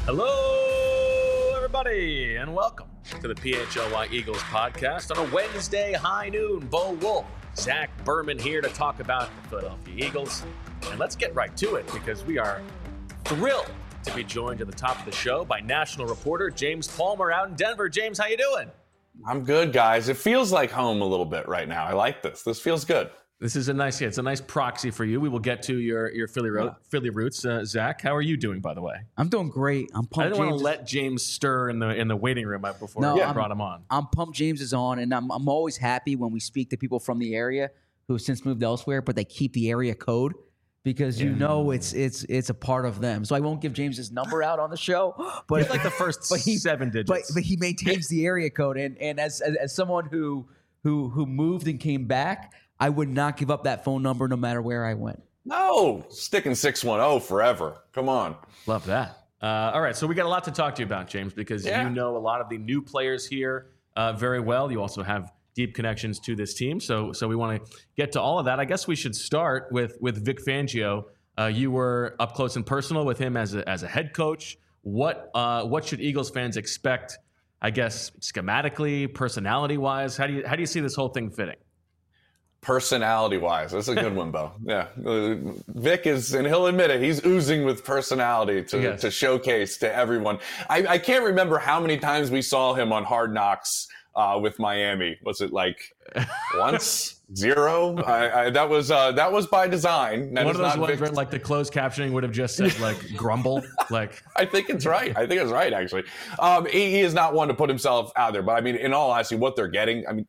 Hello, everybody, and welcome to the PHLY Eagles podcast on a Wednesday high noon. Bo Wolf, Zach Berman here to talk about the Philadelphia Eagles. And let's get right to it because we are thrilled to be joined at the top of the show by national reporter James Palmer out in Denver. James, how you doing? I'm good, guys. It feels like home a little bit right now. I like this. This feels good. This is it's a nice proxy for you. We will get to your Philly roots. Zach, how are you doing, by the way? I'm doing great. I'm pumped. I didn't want to let James stir in the waiting room before I brought him on. I'm pumped James is on, and I'm always happy when we speak to people from the area who have since moved elsewhere, but they keep the area code because it's a part of them. So I won't give James his number out on the show, but it's like the first 7 digits. But he maintains the area code, and as someone who moved and came back, I would not give up that phone number no matter where I went. No, sticking 610 forever. Come on. Love that. All right, so we got a lot to talk to you about, James, because you know a lot of the new players here very well. You also have deep connections to this team, so we want to get to all of that. I guess we should start with Vic Fangio. You were up close and personal with him as a head coach. What should Eagles fans expect, I guess, schematically, personality-wise? How do you see this whole thing fitting? Personality-wise, that's a good one, Bo. Yeah, Vic is, and he'll admit it, he's oozing with personality to showcase to everyone. I can't remember how many times we saw him on Hard Knocks with Miami. Was it like once, 0? That was by design. That one of those ones where like the closed captioning would have just said like grumble. Like I think it's right. Actually. He is not one to put himself out there. But I mean, in all honesty, what they're getting, I mean,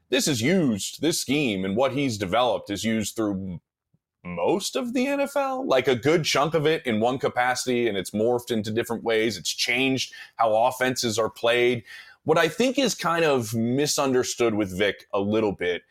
this scheme and what he's developed is used through most of the NFL, like a good chunk of it in one capacity, and it's morphed into different ways. It's changed how offenses are played. What I think is kind of misunderstood with Vic a little bit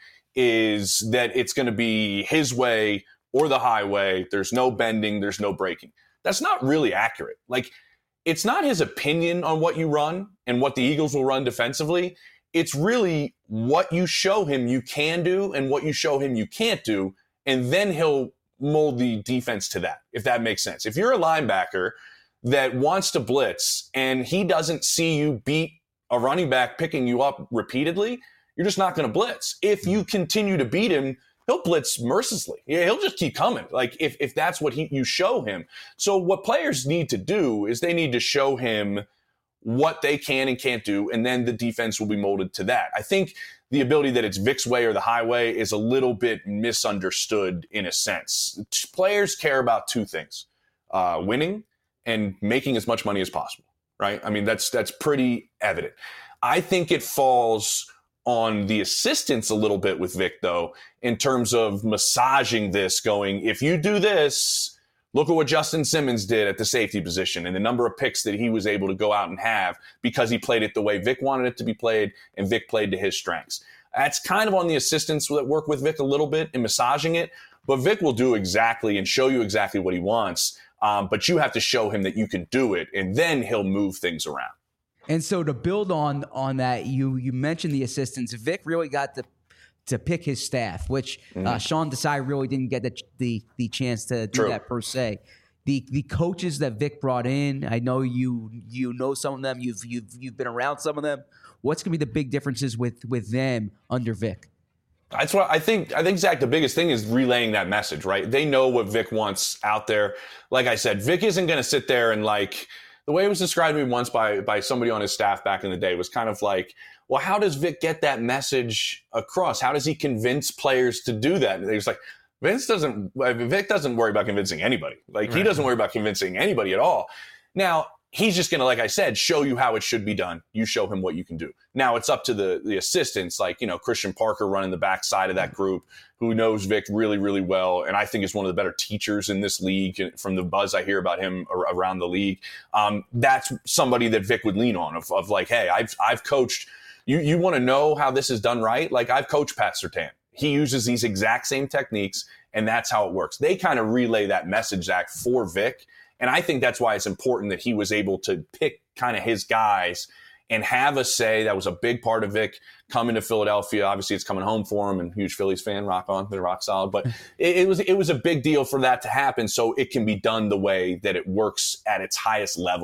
is that it's going to be his way or the highway. There's no bending. There's no breaking. That's not really accurate. Like, it's not his opinion on what you run and what the Eagles will run defensively. It's really what you show him you can do and what you show him you can't do, and then he'll mold the defense to that, if that makes sense. If you're a linebacker that wants to blitz and he doesn't see you beat a running back picking you up repeatedly, you're just not going to blitz. If you continue to beat him, he'll blitz mercilessly. Yeah, he'll just keep coming, like if that's what you show him. So what players need to do is they need to show him what they can and can't do, and then the defense will be molded to that. I think the ability that it's Vic's way or the highway is a little bit misunderstood in a sense. Players care about two things, winning and making as much money as possible, right? I mean, that's pretty evident. I think it falls on the assistants a little bit with Vic, though, in terms of massaging this, going, if you do this, look at what Justin Simmons did at the safety position and the number of picks that he was able to go out and have because he played it the way Vic wanted it to be played and Vic played to his strengths. That's kind of on the assistants that work with Vic a little bit in massaging it, but Vic will do exactly and show you exactly what he wants, but you have to show him that you can do it, and then he'll move things around. And so to build on that, you mentioned the assistants. Vic really got to pick his staff, which Sean Desai really didn't get the chance to do that per se. The coaches that Vic brought in, I know you know some of them. You've been around some of them. What's going to be the big differences with them under Vic? That's what I think, Zach, the biggest thing is relaying that message, right? They know what Vic wants out there. Like I said, Vic isn't going to sit there and like, the way it was described to me once by somebody on his staff back in the day was kind of like, well, how does Vic get that message across? How does he convince players to do that? And he was like, Vic doesn't worry about convincing anybody. Like, he doesn't worry about convincing anybody at all. Now, he's just going to, like I said, show you how it should be done. You show him what you can do. Now, it's up to the assistants, like, Christian Parker running the backside of that group, who knows Vic really, really well, and I think is one of the better teachers in this league from the buzz I hear about him around the league. That's somebody that Vic would lean on of like, hey, I've coached. You want to know how this is done right? Like, I've coached Pat Surtain. He uses these exact same techniques, and that's how it works. They kind of relay that message, Zach, for Vic. And I think that's why it's important that he was able to pick kind of his guys and have a say. That was a big part of Vic coming to Philadelphia. Obviously, it's coming home for him, and huge Phillies fan, rock on, they're rock solid. But it was a big deal for that to happen, so it can be done the way that it works at its highest level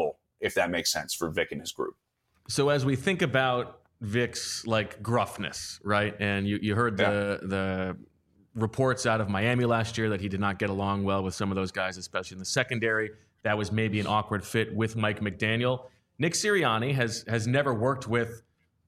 if that makes sense for Vic and his group. So as we think about Vic's like gruffness, right? And you heard the reports out of Miami last year that he did not get along well with some of those guys, especially in the secondary. That was maybe an awkward fit with Mike McDaniel. Nick Sirianni has never worked with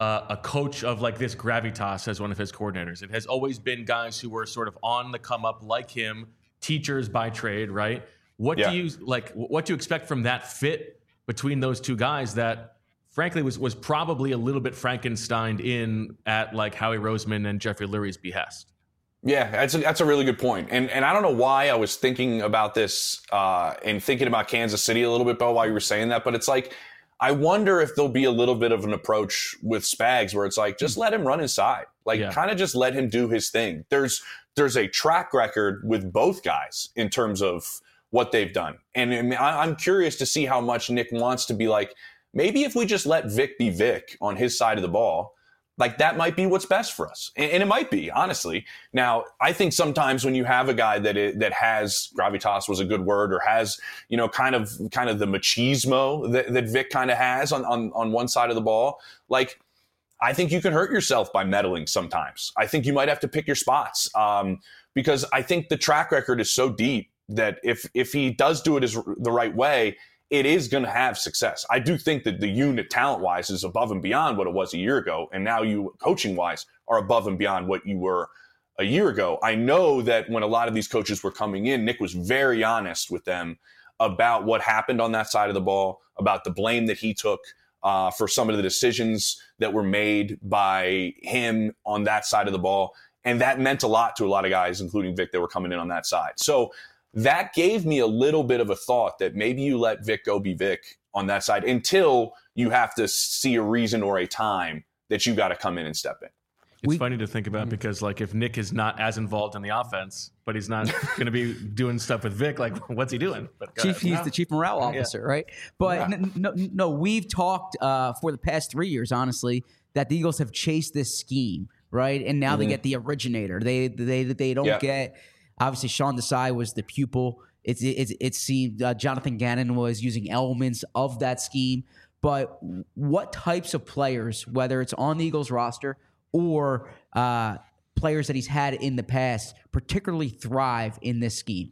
a coach of like this gravitas as one of his coordinators. It has always been guys who were sort of on the come up like him, teachers by trade, right? What do you like? What do you expect from that fit between those two guys that, frankly, was probably a little bit Frankensteined in at like Howie Roseman and Jeffrey Lurie's behest? Yeah, that's a really good point. And I don't know why I was thinking about this and thinking about Kansas City a little bit, Bo, while you were saying that. But it's like, I wonder if there'll be a little bit of an approach with Spags where it's like, just let him run inside. Like, kind of just let him do his thing. There's a track record with both guys in terms of what they've done. And I'm curious to see how much Nick wants to be like, maybe if we just let Vic be Vic on his side of the ball, like that might be what's best for us. And it might be, honestly. Now, I think sometimes when you have a guy that has, gravitas was a good word, or has, kind of the machismo that Vic kind of has on one side of the ball, like, I think you can hurt yourself by meddling sometimes. I think you might have to pick your spots because I think the track record is so deep that if he does do it the right way, it is going to have success. I do think that the unit talent-wise is above and beyond what it was a year ago, and now you, coaching-wise, are above and beyond what you were a year ago. I know that when a lot of these coaches were coming in, Nick was very honest with them about what happened on that side of the ball, about the blame that he took for some of the decisions that were made by him on that side of the ball, and that meant a lot to a lot of guys, including Vic, that were coming in on that side. So that gave me a little bit of a thought that maybe you let Vic go be Vic on that side until you have to see a reason or a time that you got to come in and step in. It's funny to think about because, like, if Nick is not as involved in the offense, but he's not going to be doing stuff with Vic, like, what's he doing? But he's the chief morale officer, right? But no, we've talked for the past 3 years, honestly, that the Eagles have chased this scheme, right? And now they get the originator. They don't get. Obviously, Sean Desai was the pupil. It seemed Jonathan Gannon was using elements of that scheme. But what types of players, whether it's on the Eagles roster or players that he's had in the past, particularly thrive in this scheme?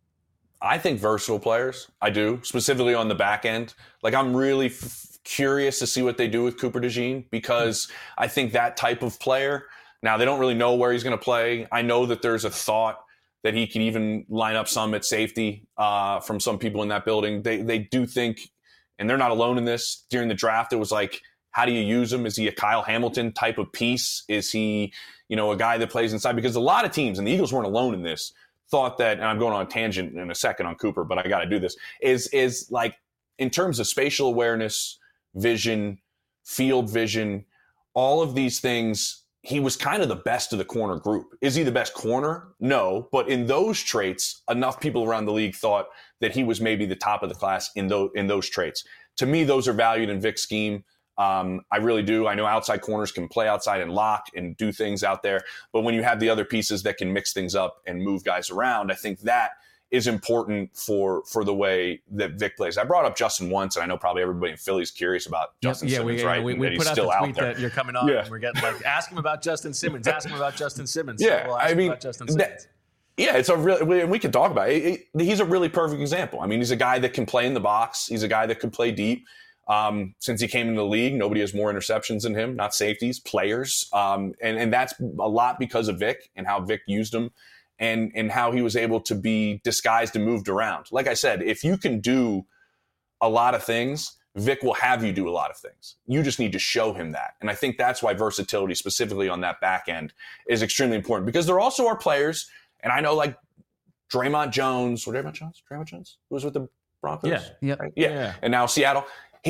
I think versatile players. I do, specifically on the back end. Like, I'm really curious to see what they do with Cooper DeJean because I think that type of player, now they don't really know where he's going to play. I know that there's a thought that he can even line up some at safety from some people in that building. They do think, and they're not alone in this, during the draft, it was like, how do you use him? Is he a Kyle Hamilton type of piece? Is he, a guy that plays inside? Because a lot of teams, and the Eagles weren't alone in this, thought that, and I'm going on a tangent in a second on Cooper, but I got to do this, is like, in terms of spatial awareness, vision, field vision, all of these things, he was kind of the best of the corner group. Is he the best corner? No. But in those traits, enough people around the league thought that he was maybe the top of the class in those traits. To me, those are valued in Vic's scheme. I really do. I know outside corners can play outside and lock and do things out there. But when you have the other pieces that can mix things up and move guys around, I think that is important for the way that Vic plays. I brought up Justin once, and I know probably everybody in Philly is curious about Justin Simmons, right? We put out the tweet that you're coming on, and we're getting like, ask him about Justin Simmons, ask him about Justin Simmons. Yeah, so we'll ask him about Justin Simmons. It's a really, and we can talk about it. He's a really perfect example. I mean, he's a guy that can play in the box. He's a guy that can play deep. Since he came into the league, nobody has more interceptions than him, not safeties, players. And that's a lot because of Vic and how Vic used him. And how he was able to be disguised and moved around. Like I said, if you can do a lot of things, Vic will have you do a lot of things. You just need to show him that. And I think that's why versatility, specifically on that back end, is extremely important. Because there also are players, and I know like Draymond Jones, who was with the Broncos? Yeah. Right? Yeah. And now Seattle.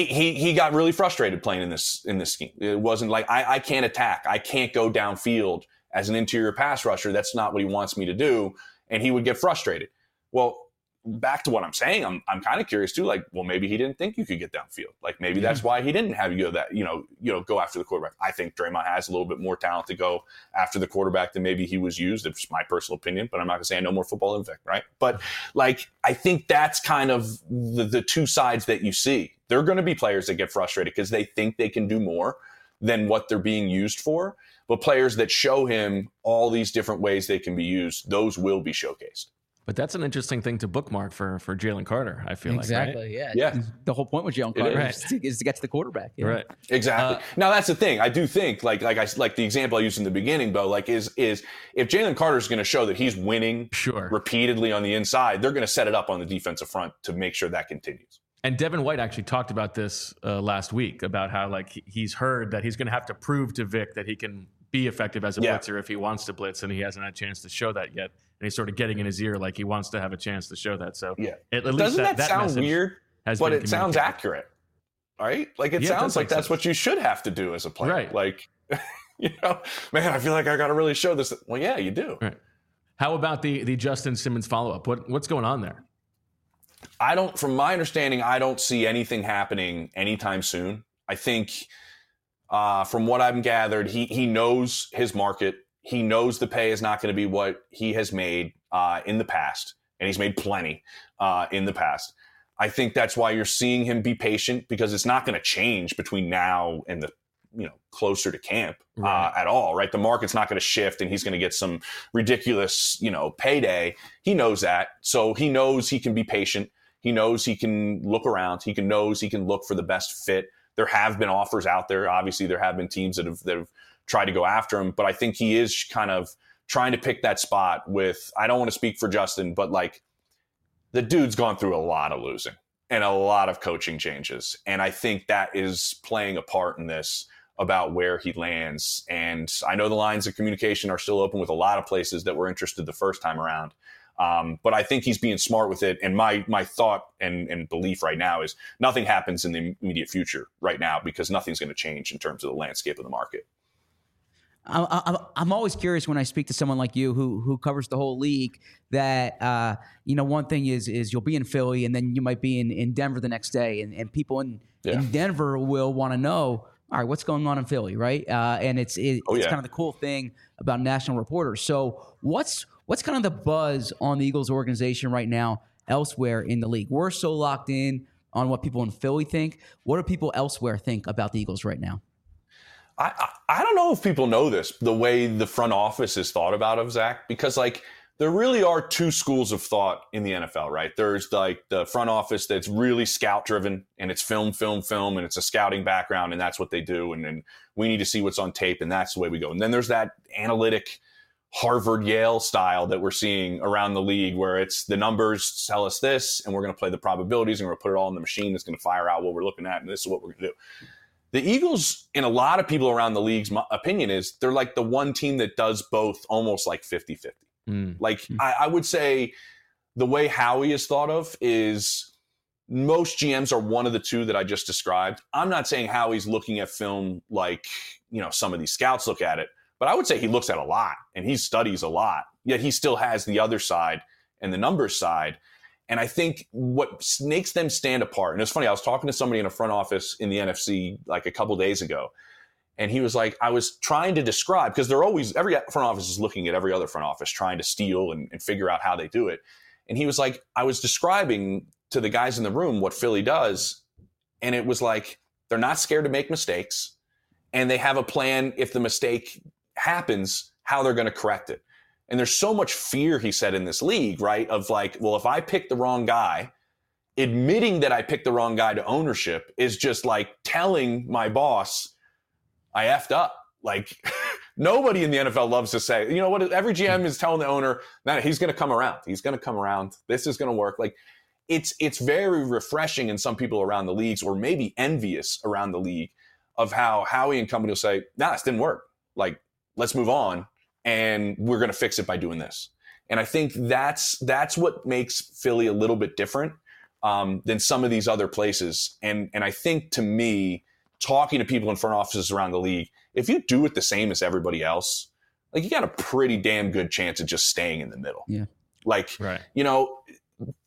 He got really frustrated playing in this scheme. It wasn't like, I can't attack. I can't go downfield as an interior pass rusher. That's not what he wants me to do. And he would get frustrated. Well, back to what I'm saying, I'm kind of curious too. Like, well, maybe he didn't think you could get downfield. Like, maybe that's why he didn't have you go after the quarterback. I think Draymond has a little bit more talent to go after the quarterback than maybe he was used. It's my personal opinion, but I'm not gonna say I know more football than Vic, right? But like, I think that's kind of the two sides that you see. There are going to be players that get frustrated because they think they can do more than what they're being used for. But players that show him all these different ways they can be used, those will be showcased. But that's an interesting thing to bookmark for Jalen Carter, I feel exactly, like, right? Yeah. The whole point with Jalen Carter is to get to the quarterback. Right. Exactly. Now, that's the thing. I do think, like the example I used in the beginning, Bo, like is if Jalen Carter is going to show that he's winning repeatedly on the inside, they're going to set it up on the defensive front to make sure that continues. And Devin White actually talked about this last week, about how like he's heard that he's going to have to prove to Vic that he can be effective as a blitzer if he wants to blitz, and he hasn't had a chance to show that yet. And he's sort of getting in his ear like he wants to have a chance to show that. So at least doesn't that sound weird? But it sounds accurate, right? Like it sounds like that's what you should have to do as a player. Right. Like, man, I feel like I got to really show this. Well, yeah, you do. Right. How about the Justin Simmons follow-up? What's going on there? From my understanding, I don't see anything happening anytime soon. I think from what I've gathered, he knows his market. He knows the pay is not going to be what he has made in the past, and he's made plenty in the past. I think that's why you're seeing him be patient, because it's not going to change between now and the closer to camp at all, right? The market's not going to shift, and he's going to get some ridiculous payday. He knows that, so he knows he can be patient. He knows he can look around. Knows he can look for the best fit. There have been offers out there. Obviously, there have been teams that have tried to go after him, but I think he is kind of trying to pick that spot with, I don't want to speak for Justin, but like the dude's gone through a lot of losing and a lot of coaching changes. And I think that is playing a part in this about where he lands. And I know the lines of communication are still open with a lot of places that were interested the first time around. But I think he's being smart with it. And my thought and belief right now is nothing happens in the immediate future right now, because nothing's going to change in terms of the landscape of the market. I'm always curious when I speak to someone like you who covers the whole league that, one thing is you'll be in Philly and then you might be in Denver the next day, and people in Denver will want to know, all right, what's going on in Philly, right? And it's kind of the cool thing about national reporters. So what's kind of the buzz on the Eagles organization right now elsewhere in the league? We're so locked in on what people in Philly think. What do people elsewhere think about the Eagles right now? I don't know if people know this, the way the front office is thought about of Zach, because like there really are two schools of thought in the NFL, right? There's like the front office that's really scout driven, and it's film, and it's a scouting background, and that's what they do. And we need to see what's on tape, and that's the way we go. And then there's that analytic Harvard, Yale style that we're seeing around the league, where it's the numbers tell us this, and we're going to play the probabilities, and we're going to put it all in the machine that's going to fire out what we're looking at, and this is what we're going to do. The Eagles, in a lot of people around the league's opinion, is they're like the one team that does both, almost like 50-50. I would say the way Howie is thought of is most GMs are one of the two that I just described. I'm not saying Howie's looking at film like, some of these scouts look at it, but I would say he looks at a lot and he studies a lot, yet he still has the other side and the numbers side. And I think what makes them stand apart, and it's funny, I was talking to somebody in a front office in the NFC like a couple days ago, and he was like, I was trying to describe, because every front office is looking at every other front office, trying to steal and figure out how they do it. And he was like, I was describing to the guys in the room what Philly does, and it was like, they're not scared to make mistakes, and they have a plan if the mistake happens, how they're going to correct it. And there's so much fear, he said, in this league, right? Of like, well, if I pick the wrong guy, admitting that I picked the wrong guy to ownership is just like telling my boss I effed up. Like nobody in the NFL loves to say, you know what? Every GM is telling the owner, no, he's going to come around. He's going to come around. This is going to work. Like it's very refreshing in some people around the leagues, or maybe envious around the league, of how Howie and company will say, nah, this didn't work. Like, let's move on. And we're going to fix it by doing this. And I think that's what makes Philly a little bit different than some of these other places. And I think, to me, talking to people in front offices around the league, if you do it the same as everybody else, like you got a pretty damn good chance of just staying in the middle. Yeah. Like, right.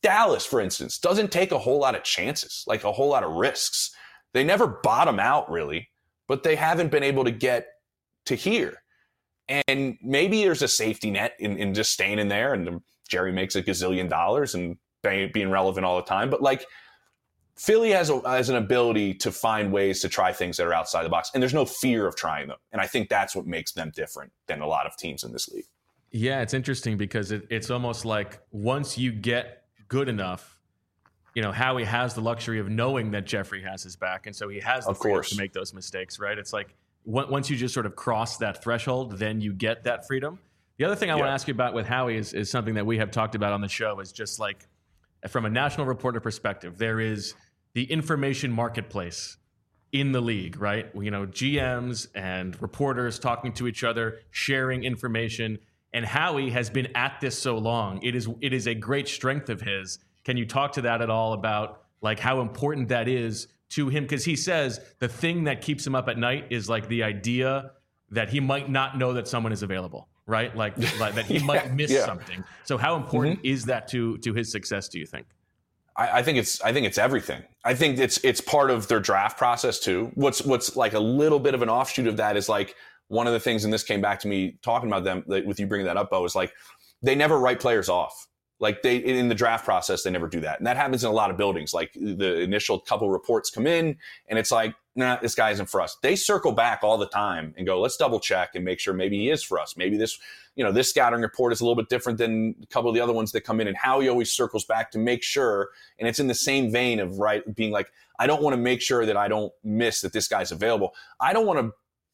Dallas, for instance, doesn't take a whole lot of chances, like a whole lot of risks. They never bottom out, really, but they haven't been able to get to here. And maybe there's a safety net in just staying in there, and Jerry makes $1 gazillion and being relevant all the time. But like, Philly has an ability to find ways to try things that are outside the box, and there's no fear of trying them. And I think that's what makes them different than a lot of teams in this league. Yeah, it's interesting because it's almost like once you get good enough, you know, Howie has the luxury of knowing that Jeffrey has his back, and so he has the freedom to make those mistakes, right? It's like once you just sort of cross that threshold, then you get that freedom. The other thing I want to ask you about with Howie is something that we have talked about on the show, is just like, from a national reporter perspective, there is the information marketplace in the league, right? You know, GMs and reporters talking to each other, sharing information. And Howie has been at this so long. It is a great strength of his. Can you talk to that at all about like how important that is to him? Because he says the thing that keeps him up at night is like the idea that he might not know that someone is available, right? Like that he might miss something. So how important is that to his success, do you think? I think it's everything. I think it's part of their draft process too. What's like a little bit of an offshoot of that is like, one of the things, and this came back to me talking about them with you bringing that up, Bo, is like they never write players off. Like they, in the draft process, they never do that. And that happens in a lot of buildings. Like the initial couple reports come in and it's like, nah, this guy isn't for us. They circle back all the time and go, let's double check and make sure maybe he is for us. Maybe this, this scouting report is a little bit different than a couple of the other ones that come in, and Howie always circles back to make sure. And it's in the same vein of being like, I don't want to make sure that I don't miss that this guy's available. I don't want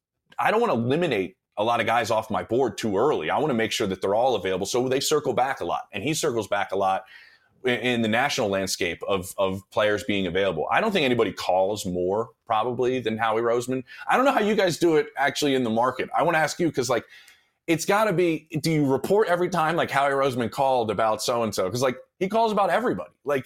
to eliminate a lot of guys off my board too early. I want to make sure that they're all available. So they circle back a lot, and he circles back a lot in the national landscape of players being available. I don't think anybody calls more probably than Howie Roseman. I don't know how you guys do it actually in the market. I want to ask you, because like, it's got to be, do you report every time like Howie Roseman called about so-and-so? Because like he calls about everybody. Like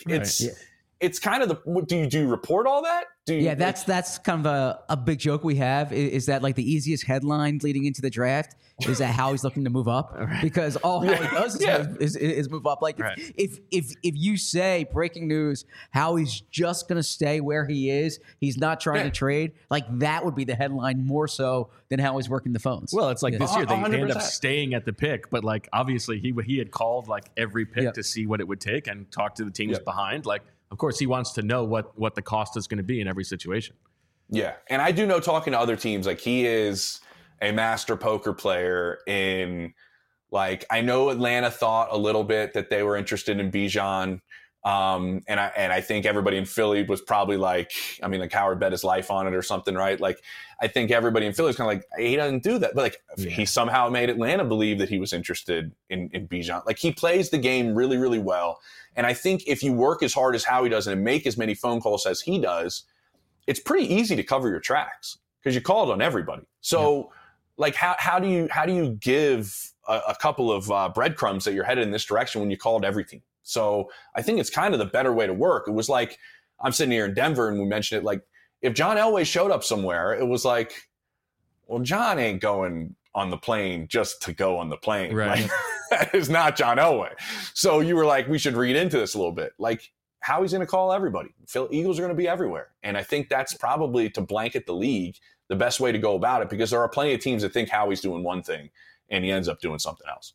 it's kind of do you report all that? That's kind of a big joke we have is that like the easiest headline leading into the draft is that Howie's looking to move up, because all Howie does is move up. Like if you say breaking news, Howie's just going to stay where he is, he's not trying to trade, like that would be the headline more so than Howie's working the phones. Well, it's like this year they end up staying at the pick, but like obviously he had called like every pick to see what it would take and talk to the teams behind. Like, of course, he wants to know what the cost is going to be in every situation. Yeah, and I do know, talking to other teams, like he is a master poker player in, like, I know Atlanta thought a little bit that they were interested in Bijan. And I think everybody in Philly was probably like, I mean, like Howard bet his life on it or something, right? Like, I think everybody in Philly is kind of like, he doesn't do that. But like, he somehow made Atlanta believe that he was interested in Bijan. Like, he plays the game really, really well. And I think if you work as hard as Howie does and make as many phone calls as he does, it's pretty easy to cover your tracks because you called on everybody. So like, how do you give a couple of breadcrumbs that you're headed in this direction when you called every team? So I think it's kind of the better way to work. It was like, I'm sitting here in Denver and we mentioned it, like if John Elway showed up somewhere, it was like, well, John ain't going on the plane just to go on the plane. Right. Like, that is not John Elway. So you were like, we should read into this a little bit. Like, how he's going to call everybody. Eagles are going to be everywhere. And I think that's probably, to blanket the league, the best way to go about it, because there are plenty of teams that think Howie's doing one thing and he ends up doing something else.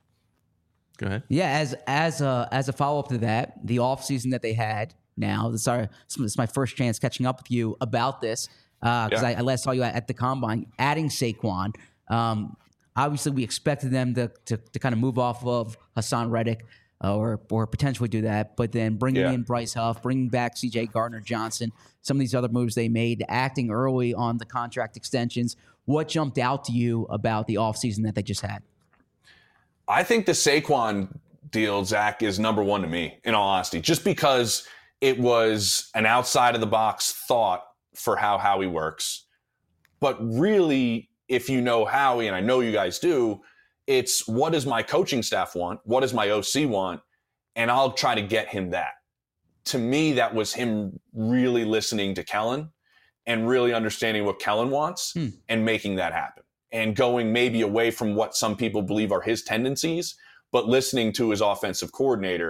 Go ahead. Yeah, as a follow-up to that, the offseason that they had now, this is my first chance catching up with you about this, because I last saw you at the Combine, adding Saquon. Obviously, we expected them to kind of move off of Hassan Reddick or potentially do that, but then bringing in Bryce Huff, bringing back C.J. Gardner-Johnson, some of these other moves they made, acting early on the contract extensions. What jumped out to you about the offseason that they just had? I think the Saquon deal, Zach, is number one to me, in all honesty, just because it was an outside-of-the-box thought for how Howie works. But really, if you know Howie, and I know you guys do, it's what does my coaching staff want? What does my OC want? And I'll try to get him that. To me, that was him really listening to Kellen and really understanding what Kellen wants and making that happen. And going maybe away from what some people believe are his tendencies, but listening to his offensive coordinator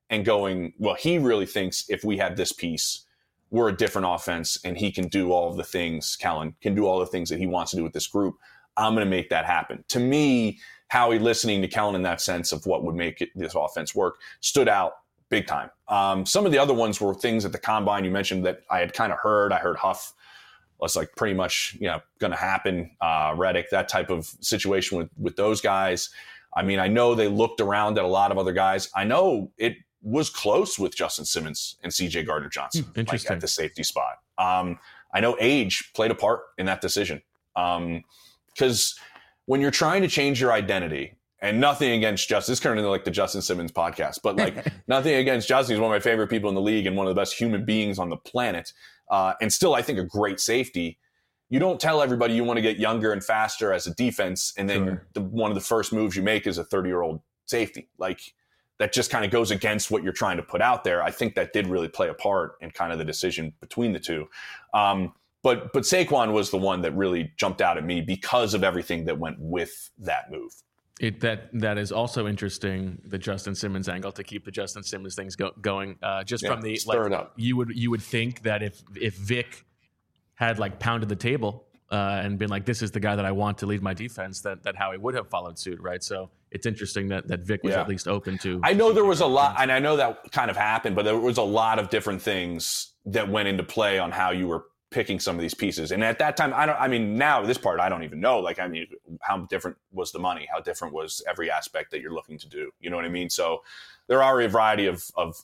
and going, well, he really thinks if we have this piece, we're a different offense and he can do all of the things, Kellen can do all the things that he wants to do with this group. I'm going to make that happen. To me, Howie listening to Kellen in that sense of what would make this offense work stood out big time. Some of the other ones were things at the combine you mentioned that I had kind of heard. I heard Huff was like pretty much, going to happen. Reddick, that type of situation with those guys. I mean, I know they looked around at a lot of other guys. I know it was close with Justin Simmons and CJ Gardner-Johnson like at the safety spot. I know age played a part in that decision. Because when you're trying to change your identity, and nothing against Justin, this is kind of like the Justin Simmons podcast, but like nothing against Justin. He's one of my favorite people in the league and one of the best human beings on the planet. And still, I think, a great safety. You don't tell everybody you want to get younger and faster as a defense, and then one of the first moves you make is a 30-year-old safety. Like, that just kind of goes against what you're trying to put out there. I think that did really play a part in kind of the decision between the two. But Saquon was the one that really jumped out at me because of everything that went with that move. That is also interesting, the Justin Simmons angle, to keep the Justin Simmons things going. From the stir it up. You would think that if Vic had like pounded the table and been like, this is the guy that I want to lead my defense, that Howie would have followed suit, right? So it's interesting that Vic was at least open to. I know there was a lot, and I know that kind of happened, but there was a lot of different things that went into play on how you were picking some of these pieces. And at that time, now this part, I don't even know. Like, I mean, how different was the money? How different was every aspect that you're looking to do? You know what I mean? So there are a variety of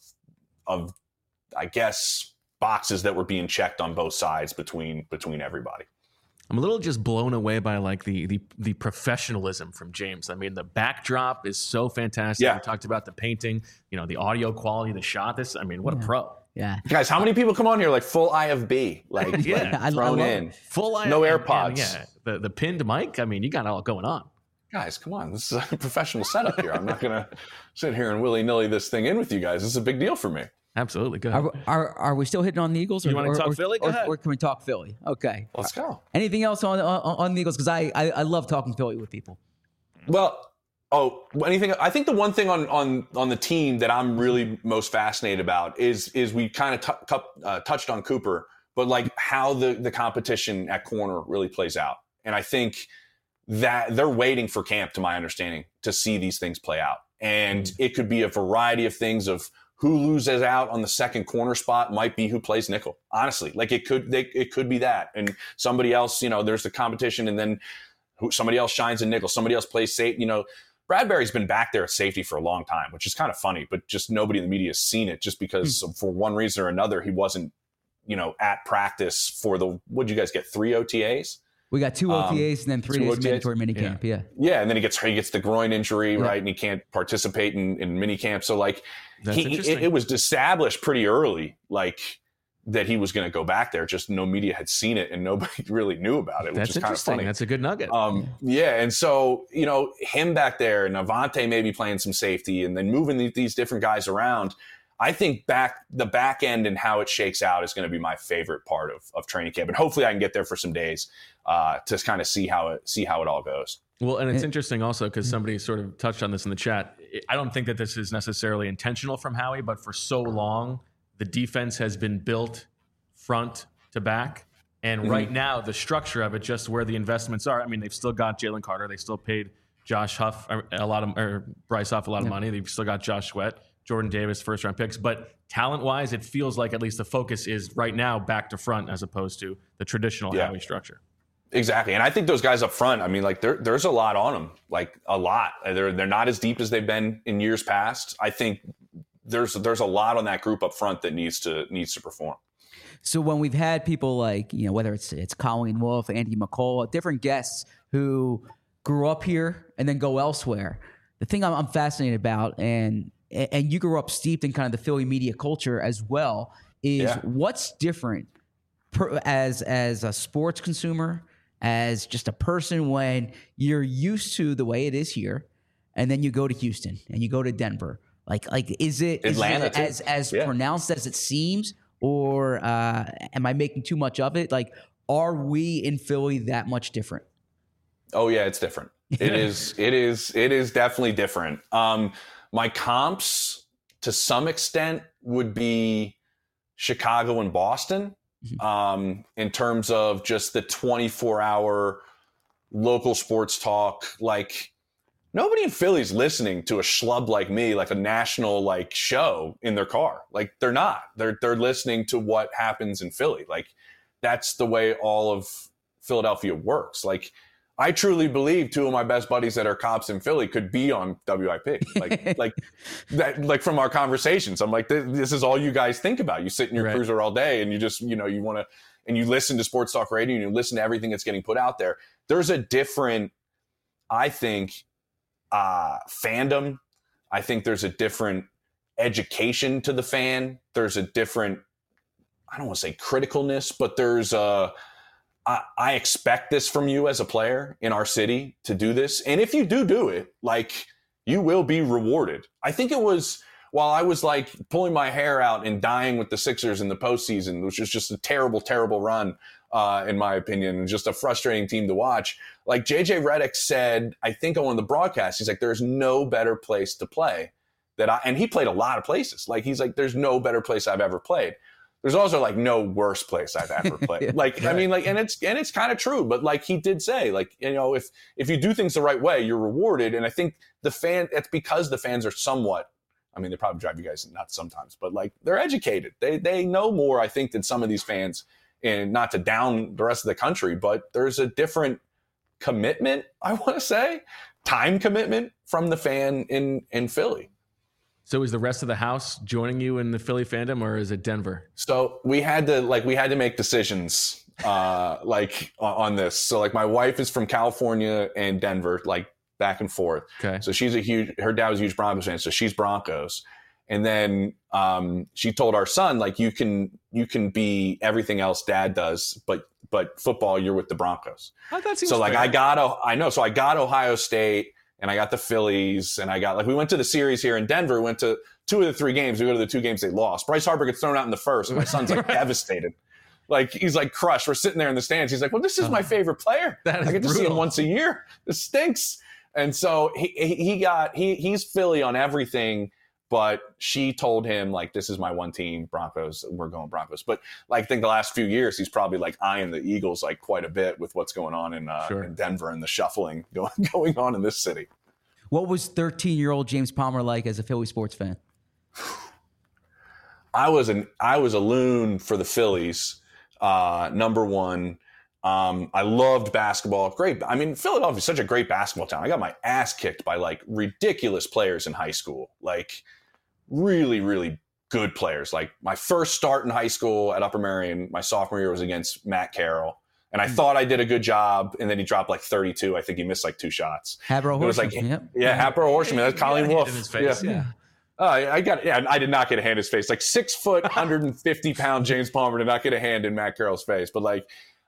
I guess, boxes that were being checked on both sides between everybody. I'm a little just blown away by like the professionalism from James. I mean, the backdrop is so fantastic. Yeah. We talked about the painting, the audio quality, the shot. What a pro. Yeah. Guys, how many people come on here like full IFB? Like, thrown in. Full IFB. No AirPods. And the pinned mic. I mean, you got it all going on. Guys, come on. This is a professional setup here. I'm not going to sit here and willy-nilly this thing in with you guys. This is a big deal for me. Absolutely. Go ahead. Are we still hitting on the Eagles? You want to talk Philly? Go ahead. Or can we talk Philly? Okay. Let's go. Anything else on the Eagles? Because I love talking Philly with people. Well, anything? I think the one thing on the team that I'm really most fascinated about is we kind of touched on Cooper, but like how the competition at corner really plays out. And I think that they're waiting for camp, to my understanding, to see these things play out. And it could be a variety of things of who loses out on the second corner spot might be who plays nickel. Honestly, like it could be that. And somebody else, there's the competition, and then somebody else shines in nickel. Somebody else plays safe. Bradbury's been back there at safety for a long time, which is kind of funny, but just nobody in the media has seen it just because for one reason or another, he wasn't, at practice for what'd you guys get? 3 OTAs? We got 2 OTAs and then 3 days mandatory minicamp. Yeah. Yeah. And then he gets the groin injury, right? And he can't participate in minicamp. So like it was established pretty early, like that he was going to go back there. Just no media had seen it and nobody really knew about it, which is kind of funny. That's a good nugget. Yeah. And so, him back there and Avante maybe playing some safety and then moving these different guys around. I think the back end and how it shakes out is going to be my favorite part of training camp. And hopefully I can get there for some days to kind of see how it all goes. Well, and it's interesting also because somebody sort of touched on this in the chat. I don't think that this is necessarily intentional from Howie, but for so long, the defense has been built front to back. And right now, the structure of it, just where the investments are, I mean, they've still got Jalen Carter. They still paid Josh Huff Bryce Huff a lot of money. They've still got Josh Sweat, Jordan Davis, first-round picks. But talent-wise, it feels like at least the focus is right now back to front as opposed to the traditional Howie structure. Exactly. And I think those guys up front, I mean, like there's a lot on them, like a lot. They're not as deep as they've been in years past. I think there's a lot on that group up front that needs to perform. So when we've had people like, whether it's Colleen Wolfe, Andy McCall, different guests who grew up here and then go elsewhere, the thing I'm fascinated about, and you grew up steeped in kind of the Philly media culture as well, is what's different as a sports consumer, as just a person, when you're used to the way it is here, and then you go to Houston and you go to Denver. Like is it as pronounced as it seems, or am I making too much of it? Like, are we in Philly that much different? Oh yeah, it's different. It is definitely different. My comps to some extent would be Chicago and Boston, in terms of just the 24-hour local sports talk. Like, nobody in Philly's listening to a schlub like me, like a national like show in their car. Like, they're not. They're listening to what happens in Philly. Like, that's the way all of Philadelphia works. Like, I truly believe two of my best buddies that are cops in Philly could be on WIP. Like that, like from our conversations, I'm like, this is all you guys think about. You sit in your cruiser all day and you just, you want to, and you listen to sports talk radio and you listen to everything that's getting put out there. There's a different, I think, fandom. I think there's a different education to the fan. There's a different, I don't want to say criticalness, but there's I expect this from you as a player in our city to do this. And if you do it, like, you will be rewarded. I think it was while I was like pulling my hair out and dying with the Sixers in the postseason, which was just a terrible, terrible run, in my opinion, and just a frustrating team to watch. Like, JJ Redick said, I think on one of the broadcasts, he's like, there's no better place to play and he played a lot of places. Like, he's like, there's no better place I've ever played. There's also like no worse place I've ever played. Like, right. I mean, like, and it's kind of true, but like he did say, like, if you do things the right way, you're rewarded. And I think it's because the fans are somewhat, I mean, they probably drive you guys nuts sometimes, but like, they're educated. They know more, I think, than some of these fans, and not to down the rest of the country, but there's a different commitment, I want to say, time commitment from the fan in Philly. So is the rest of the house joining you in the Philly fandom, or is it Denver? So we had to make decisions like on this. So like, my wife is from California and Denver, like back and forth. Okay. So her dad was a huge Broncos fan, so she's Broncos. And then she told our son, like, you can be everything else dad does, but football, you're with the Broncos. Oh, that seems so like fair. So I got Ohio State. And I got the Phillies, and I got, like, we went to the series here in Denver. We went to 2 of the 3 games. We go to the 2 games they lost. Bryce Harper gets thrown out in the first, and my son's like devastated. Like, he's like crushed. We're sitting there in the stands. He's like, well, this is my favorite player. I get to see him once a year. This stinks. And so he's Philly on everything, but she told him, like, this is my one team, Broncos. We're going Broncos. But like, I think the last few years, he's probably like eyeing the Eagles like quite a bit with what's going on in Denver and the shuffling going on in this city. What was 13-year-old James Palmer like as a Philly sports fan? I was a loon for the Phillies. Number one. I loved basketball. Great. I mean, Philadelphia is such a great basketball town. I got my ass kicked by like ridiculous players in high school. Like, really, really good players. Like, my first start in high school at Upper Merion, my sophomore year, was against Matt Carroll. And I thought I did a good job. And then he dropped like 32. I think he missed like 2 shots. Habro Horseman. Like, Habro Horseman. That's Colleen Wolfe. In his face. Yeah. I did not get a hand in his face. Like, 6 foot, 150 pound James Palmer did not get a hand in Matt Carroll's face. But like,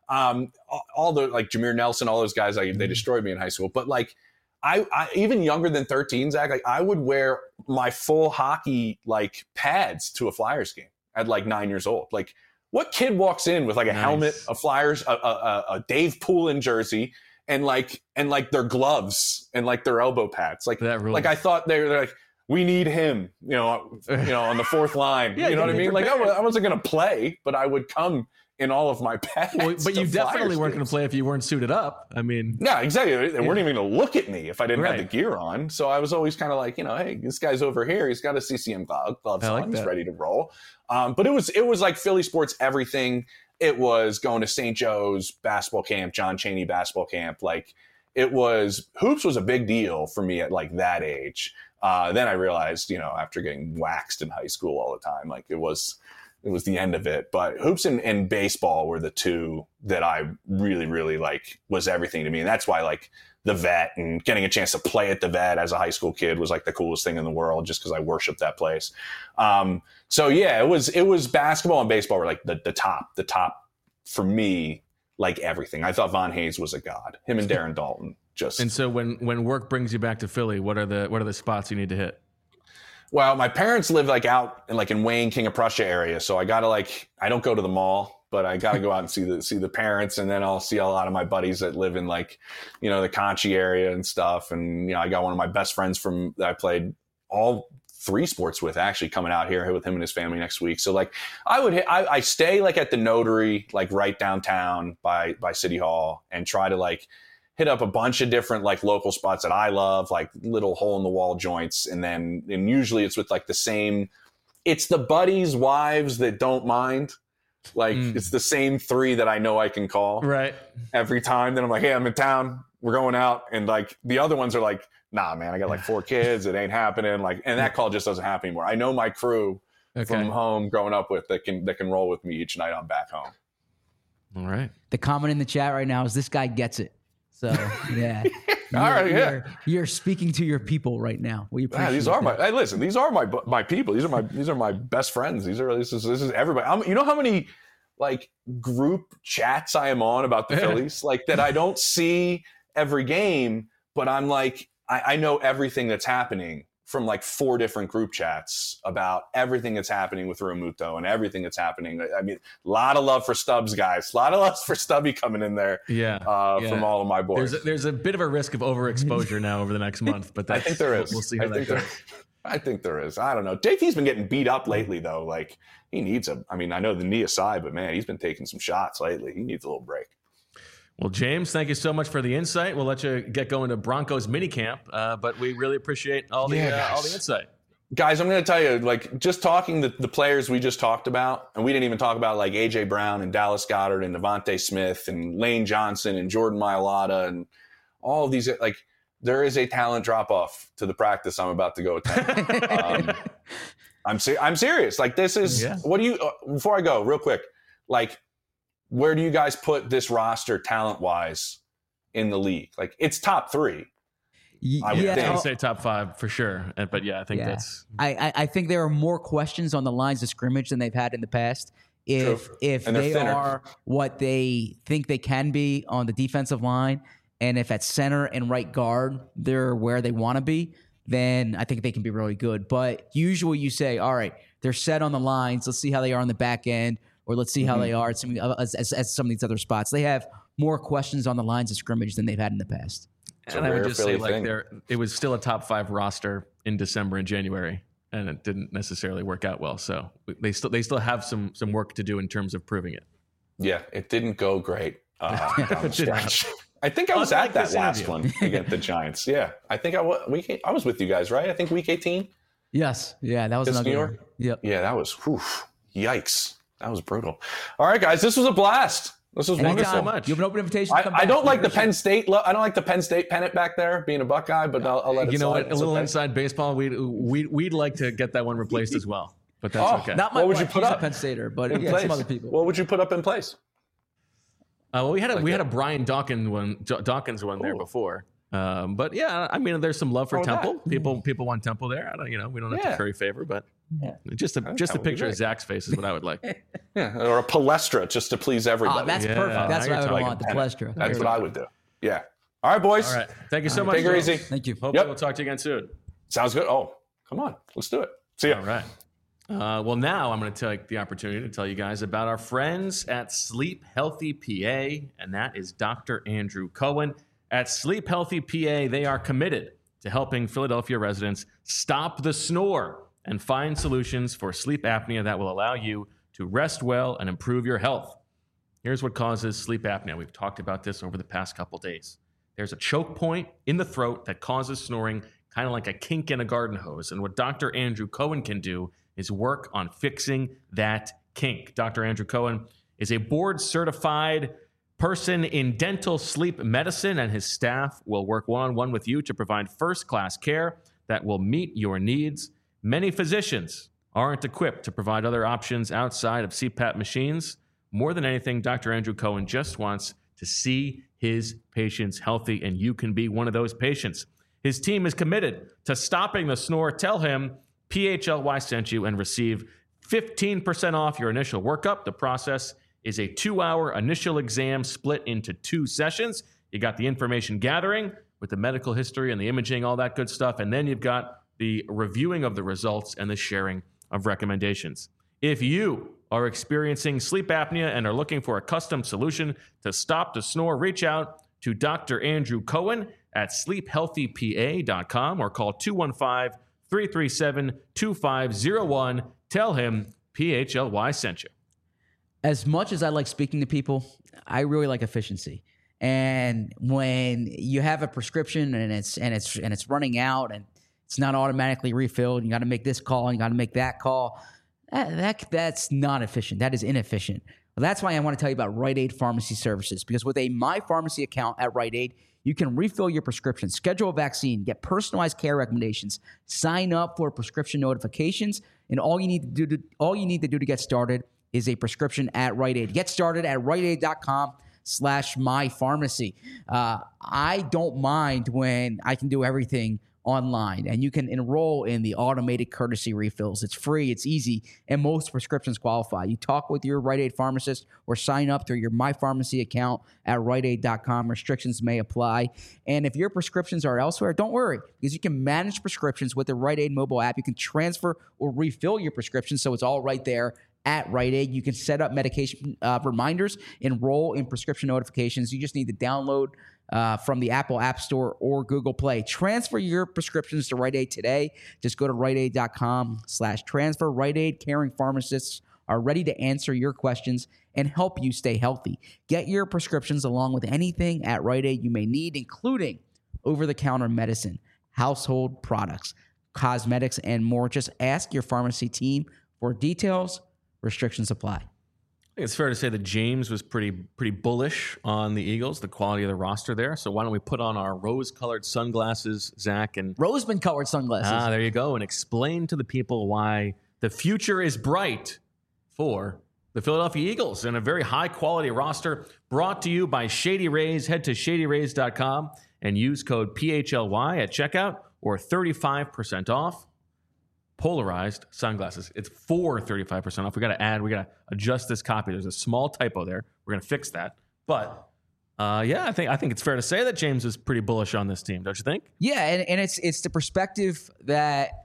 all the, like, Jameer Nelson, all those guys, like, they destroyed me in high school. But like, I even younger than 13, Zach, like, I would wear my full hockey like pads to a Flyers game at like 9 years old. Like, what kid walks in with like a helmet, a Flyers, a Dave Poulin jersey, and like their gloves and like their elbow pads? Like, like, I thought they're like, we need him, on the 4th line. You know what I mean? Like, I wasn't going to play, but I would come in all of my pads. Well, but you definitely weren't going to play if you weren't suited up. I mean, yeah, exactly. They weren't even going to look at me if I didn't have the gear on. So I was always kind of like, hey, this guy's over here. He's got a CCM gloves on. He's ready to roll. But it was like Philly sports everything. It was going to St. Joe's basketball camp, John Chaney basketball camp. Like, hoops was a big deal for me at like that age. Then I realized, after getting waxed in high school all the time, like, it was the end of it. But hoops and baseball were the 2 that I really, really like, was everything to me. And that's why, like, the Vet and getting a chance to play at the Vet as a high school kid was like the coolest thing in the world, just because I worshiped that place. So yeah, it was basketball and baseball were like the top for me, like everything. I thought Von Hayes was a god. Him and Darren Dalton just. And so when work brings you back to Philly, what are the spots you need to hit? Well, my parents live like out in Wayne, King of Prussia area. So I got to I don't go to the mall, but I got to go out and see the parents. And then I'll see a lot of my buddies that live in the Conchie area and stuff. And, I got one of my best friends that I played all 3 sports with, actually, coming out here with him and his family next week. So like I stay like at the Notary, like right downtown by City Hall, and try to like hit up a bunch of different like local spots that I love, like little hole in the wall joints. And usually it's with like it's the buddies' wives that don't mind. Like it's the same 3 that I know I can call every time. Then I'm like, hey, I'm in town. We're going out. And like the other ones are like, nah, man, I got like 4 kids. It ain't happening. Like, and that call just doesn't happen anymore. I know my crew from home growing up with that can roll with me each night I'm back home. All right. The comment in the chat right now is this guy gets it. So yeah. All right, you're speaking to your people right now. We appreciate these are my. Hey, listen, these are my people. These are my best friends. This is everybody. You know how many like group chats I am on about the Phillies, like that I don't see every game, but I'm like I know everything that's happening from like 4 different group chats about everything that's happening with Realmuto and everything that's happening. I mean, a lot of love for Stubbs, guys. A lot of love for Stubby coming in there. From all of my boys. There's a bit of a risk of overexposure now over the next month, but I think there is. We'll see how that goes. I think there is. I don't know. JT's been getting beat up lately, though. Like he needs I know the knee aside, but man, he's been taking some shots lately. He needs a little break. Well, James, thank you so much for the insight. We'll let you get going to Broncos minicamp, but we really appreciate all the insight. Guys, I'm going to tell you, like, just talking the players we just talked about, and we didn't even talk about, like, A.J. Brown and Dallas Goedert and Devontae Smith and Lane Johnson and Jordan Mailata and all of these, like, there is a talent drop-off to the practice I'm about to go attend. I'm serious. Like, this is what do you before I go, real quick, like, where do you guys put this roster talent-wise in the league? Like, it's top 3. I would say top 5 for sure. But yeah, I think that's. I think there are more questions on the lines of scrimmage than they've had in the past. If they are what they think they can be on the defensive line, and if at center and right guard they're where they want to be, then I think they can be really good. But usually you say, all right, they're set on the lines. Let's see how they are on the back end. Or let's see how they are at some of these other spots. They have more questions on the lines of scrimmage than they've had in the past. And I would just say, like, it was still a top 5 roster in December and January, and it didn't necessarily work out well. So they still have some work to do in terms of proving it. Yeah, it didn't go great down the stretch. I think I was at that last one against the Giants. Yeah, I think I was with you guys, right? I think week 18. Yes, yeah, that was another New York. Yep. Yeah, that was yikes. That was brutal. All right, guys, this was a blast. This was wonderful. So much. You have an open invitation. I don't like the Penn State. I don't like the Penn State pennant back there, being a Buckeye. But I'll let it. You know what? A little inside baseball. We'd like to get that one replaced as well. But that's okay. Not my what would you put up? Penn Stater, but some other people. What would you put up in place? Well, we had a Brian Dawkins one there before. But yeah, I mean, there's some love for Temple. People want Temple there. We don't have to curry favor, but just a picture of Zach's face is what I would like. Or a Palestra just to please everybody. Oh, that's perfect. That's what I would want. The Palestra. That's what I would do. Yeah. All right, boys. All right. Thank you so much. Take it easy. Thank you. Hopefully we'll talk to you again soon. Sounds good. Oh, come on. Let's do it. See ya. All right. Well, now I'm going to take the opportunity to tell you guys about our friends at Sleep Healthy PA, and that is Dr. Andrew Cohen. At Sleep Healthy PA, they are committed to helping Philadelphia residents stop the snore and find solutions for sleep apnea that will allow you to rest well and improve your health. Here's what causes sleep apnea. We've talked about this over the past couple days. There's a choke point in the throat that causes snoring, kind of like a kink in a garden hose. And what Dr. Andrew Cohen can do is work on fixing that kink. Dr. Andrew Cohen is a board-certified person in dental sleep medicine, and his staff will work one-on-one with you to provide first-class care that will meet your needs. Many physicians aren't equipped to provide other options outside of CPAP machines. More than anything, Dr. Andrew Cohen just wants to see his patients healthy, and you can be one of those patients. His team is committed to stopping the snore. Tell him PHLY sent you and receive 15% off your initial workup. The process is a 2-hour initial exam split into 2 sessions. You got the information gathering with the medical history and the imaging, all that good stuff. And then you've got the reviewing of the results and the sharing of recommendations. If you are experiencing sleep apnea and are looking for a custom solution to stop the snore, reach out to Dr. Andrew Cohen at sleephealthypa.com or call 337-2501. Tell him PHLY sent you. As much as I like speaking to people, I really like efficiency. And when you have a prescription and it's running out and it's not automatically refilled, you got to make this call and you got to make that call. That's not efficient. That is inefficient. Well, that's why I want to tell you about Rite Aid Pharmacy Services, because with a My Pharmacy account at Rite Aid, you can refill your prescription, schedule a vaccine, get personalized care recommendations, sign up for prescription notifications, and all you need to do to get started is a prescription at Rite Aid. Get started at riteaid.com/mypharmacy. I don't mind when I can do everything online, and you can enroll in the automated courtesy refills. It's free, it's easy, and most prescriptions qualify. You talk with your Rite Aid pharmacist or sign up through your My Pharmacy account at riteaid.com. Restrictions may apply. And if your prescriptions are elsewhere, don't worry, because you can manage prescriptions with the Rite Aid mobile app. You can transfer or refill your prescription, so it's all right there at Rite Aid. You can set up medication reminders, enroll in prescription notifications. You just need to download from the Apple App Store or Google Play. Transfer your prescriptions to Rite Aid today. Just go to riteaid.com/transfer. Rite Aid caring pharmacists are ready to answer your questions and help you stay healthy. Get your prescriptions along with anything at Rite Aid you may need, including over-the-counter medicine, household products, cosmetics, and more. Just ask your pharmacy team for details. Restrictions apply. I think it's fair to say that James was pretty bullish on the Eagles, the quality of the roster there. So why don't we put on our rose-colored sunglasses, Zach, and Roseman-colored sunglasses. There you go, and explain to the people why the future is bright for the Philadelphia Eagles and a very high-quality roster brought to you by Shady Rays. Head to shadyrays.com and use code PHLY at checkout or 35% off. Polarized sunglasses. It's for 35% off. We got to adjust this copy. There's a small typo there. We're going to fix that. But I think it's fair to say that James is pretty bullish on this team, don't you think? Yeah, and it's the perspective that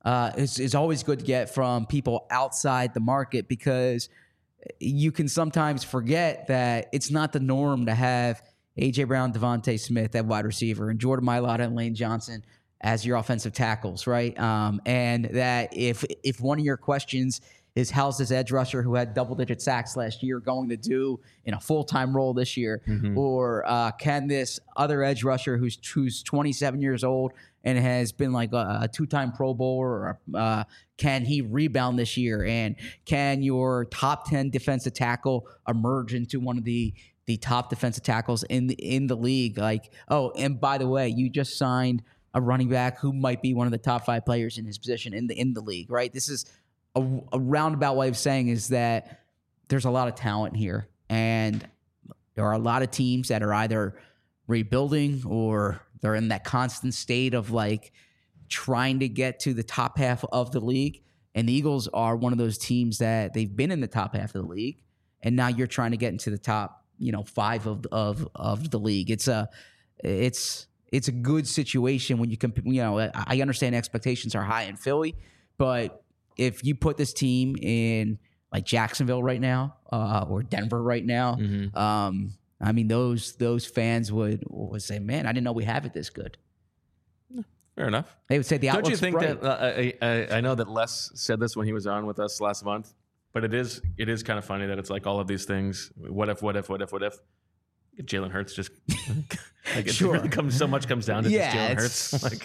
is always good to get from people outside the market, because you can sometimes forget that it's not the norm to have A.J. Brown, Devontae Smith at wide receiver, and Jordan Mailata and Lane Johnson as your offensive tackles, right? And that if one of your questions is how's this edge rusher who had double-digit sacks last year going to do in a full-time role this year, or can this other edge rusher who's 27 years old and has been like a two-time Pro Bowler, or can he rebound this year? And can your top 10 defensive tackle emerge into one of the top defensive tackles in the league? Like, oh, and by the way, you just signed a running back who might be one of the top 5 players in his position in the league, right? This is a roundabout way of saying is that there's a lot of talent here, and there are a lot of teams that are either rebuilding or they're in that constant state of like trying to get to the top half of the league. And the Eagles are one of those teams that they've been in the top half of the league, and now you're trying to get into the top, 5 of the league. It's a good situation when you compare. I understand expectations are high in Philly, but if you put this team in like Jacksonville right now, or Denver right now, I mean, those fans would say, "Man, I didn't know we have it this good." Fair enough. They would say the outlook's bright. Don't you think bright. that I know that Les said this when he was on with us last month, but it is kind of funny that it's like all of these things. What if? Jalen Hurts just like it Sure. really so much comes down to just Jalen Hurts. Like,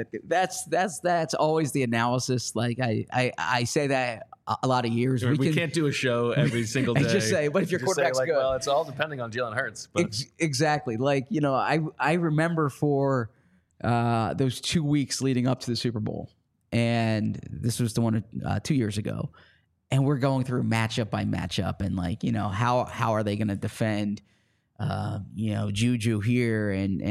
that's always the analysis. Like I say that a lot of years. We can't do a show every single day. And just say, but if your quarterback's good, well, it's all depending on Jalen Hurts. But exactly. Like I remember for those 2 weeks leading up to the Super Bowl, and this was the one 2 years ago, and we're going through matchup by matchup, and like how are they going to defend Juju here, and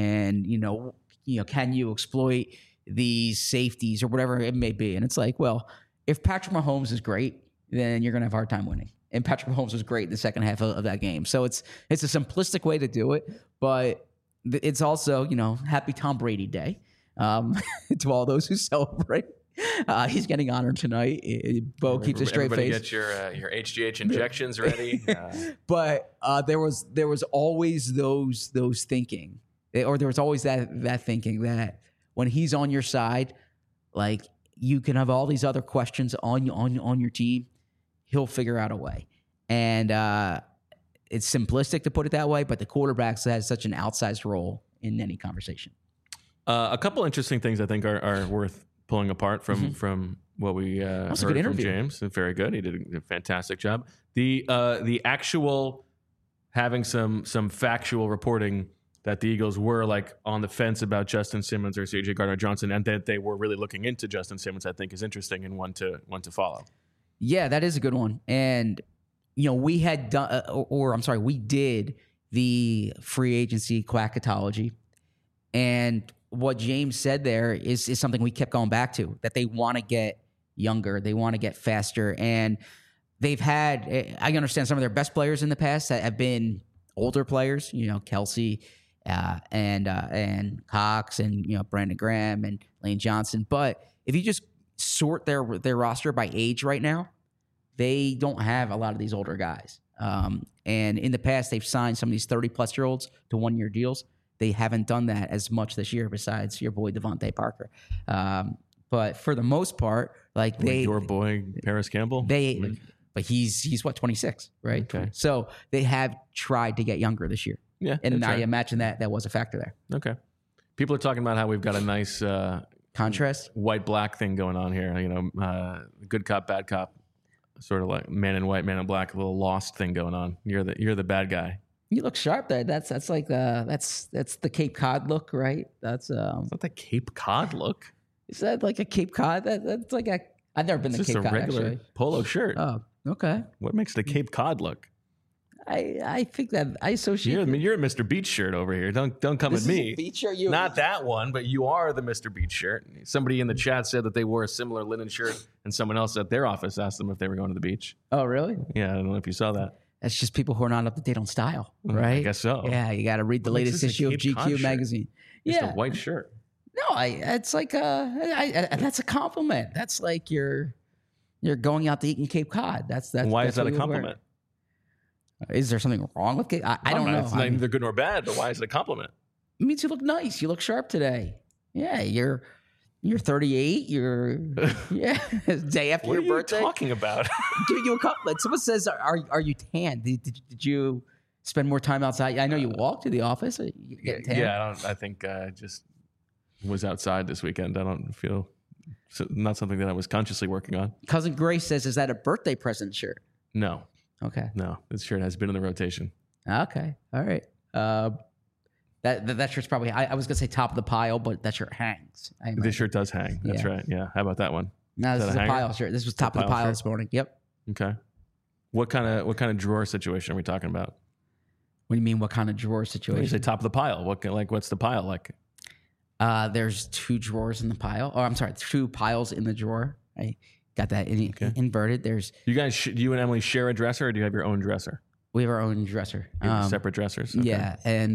can you exploit these safeties or whatever it may be? And it's like, well, if Patrick Mahomes is great, then you're going to have a hard time winning. And Patrick Mahomes was great in the second half of that game. So it's a simplistic way to do it, but it's also, happy Tom Brady Day to all those who celebrate. He's getting honored tonight. Bo keeps a straight face. Get your HGH injections ready. But there was always those thinking, or there was always that thinking that when he's on your side, like you can have all these other questions on your team. He'll figure out a way. And it's simplistic to put it that way, but the quarterback has such an outsized role in any conversation. A couple interesting things I think are worth pulling apart from what we heard from James. Very good. He did a fantastic job. The actual having some factual reporting that the Eagles were like on the fence about Justin Simmons or C.J. Gardner-Johnson, and that they were really looking into Justin Simmons, I think is interesting and one to follow. Yeah, that is a good one. And we had done, we did the free agency quackatology, and what James said there is something we kept going back to, that they want to get younger, they want to get faster, and they've had. I understand some of their best players in the past that have been older players, Kelsey. And Cox and Brandon Graham and Lane Johnson. But if you just sort their roster by age right now, they don't have a lot of these older guys. And in the past, they've signed some of these 30-plus-year-olds to one-year deals. They haven't done that as much this year, besides your boy Devontae Parker. But for the most part, your boy Paris Campbell, but he's what, 26, right? Okay. So they have tried to get younger this year. Yeah, and I imagine that was a factor there. Okay. People are talking about how we've got a nice contrast, white-black thing going on here. Good cop, bad cop, sort of like man in white, man in black, a little Lost thing going on. You're the bad guy. You look sharp there. That's like that's the Cape Cod look, right? That's it's not the Cape Cod look. Is that like a Cape Cod? That's like I've never been to Cape Cod. It's just a regular actually. Polo shirt. Oh, okay. What makes the Cape Cod look? I think that I associate. You're a Mr. Beach shirt over here. Don't come at me. Beach shirt, not that one, but you are the Mr. Beach shirt. Somebody in the chat said that they wore a similar linen shirt, and someone else at their office asked them if they were going to the beach. Oh, really? Yeah, I don't know if you saw that. That's just people who are not up to date on style, right? I guess so. Yeah, you got to read the latest issue of GQ magazine. It's a white shirt. No, it's like that's a compliment. That's like you're going out to eat in Cape Cod. That's why is that a compliment? Is there something wrong with it? I don't know. It's neither good nor bad, but why is it a compliment? It means you look nice. You look sharp today. Yeah, you're 38. You're day after your birthday. What are you talking about? Giving you a compliment. Someone says, "Are you tan? Did you spend more time outside?" I know you walk to the office. You get tan. Yeah, I think I just was outside this weekend. I don't feel not something that I was consciously working on. Cousin Grace says, "Is that a birthday present shirt?" No. Okay. No, this shirt has been in the rotation. Okay. All right. That shirt's probably, I was going to say top of the pile, but that shirt hangs. This shirt does hang. That's right. Yeah. How about that one? No, this is a pile shirt. This was top of the pile this morning. Yep. Okay. What kind of drawer situation are we talking about? What do you mean? What kind of drawer situation? When you say top of the pile, what's the pile like? There's two drawers in the pile. Oh, I'm sorry, 2 piles in the drawer. I got that inverted. There's you and Emily share a dresser, or do you have your own dresser? We have our own dresser. Separate dressers. Okay. Yeah, and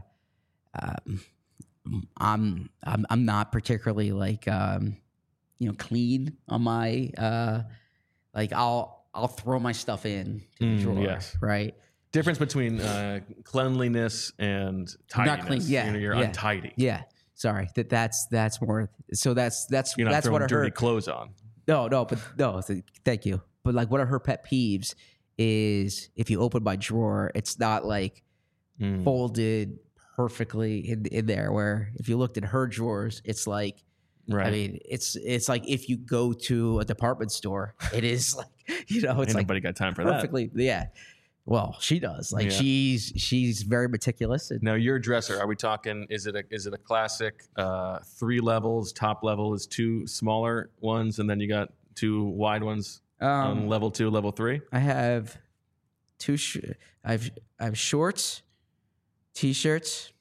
I'm not particularly clean on my I'll throw my stuff in to the drawer. Yes. Right. Difference between cleanliness and tidiness. Not clean. Yeah. You're untidy. Yeah. Sorry. That's more. So that's you're not that's throwing what dirty clothes on. No. Thank you. But like one of her pet peeves is if you open my drawer, it's not like folded perfectly in there. Where if you looked at her drawers, it's like, right. I mean, it's like if you go to a department store, it is like, it's Ain't like nobody got time for perfectly, that. Yeah. Well, she does. Like she's very meticulous. Now, your dresser, are we talking? Is it a classic 3 levels? Top level is 2 smaller ones, and then you got 2 wide ones on level 2, level 3. I have 2. I have shorts, t-shirts,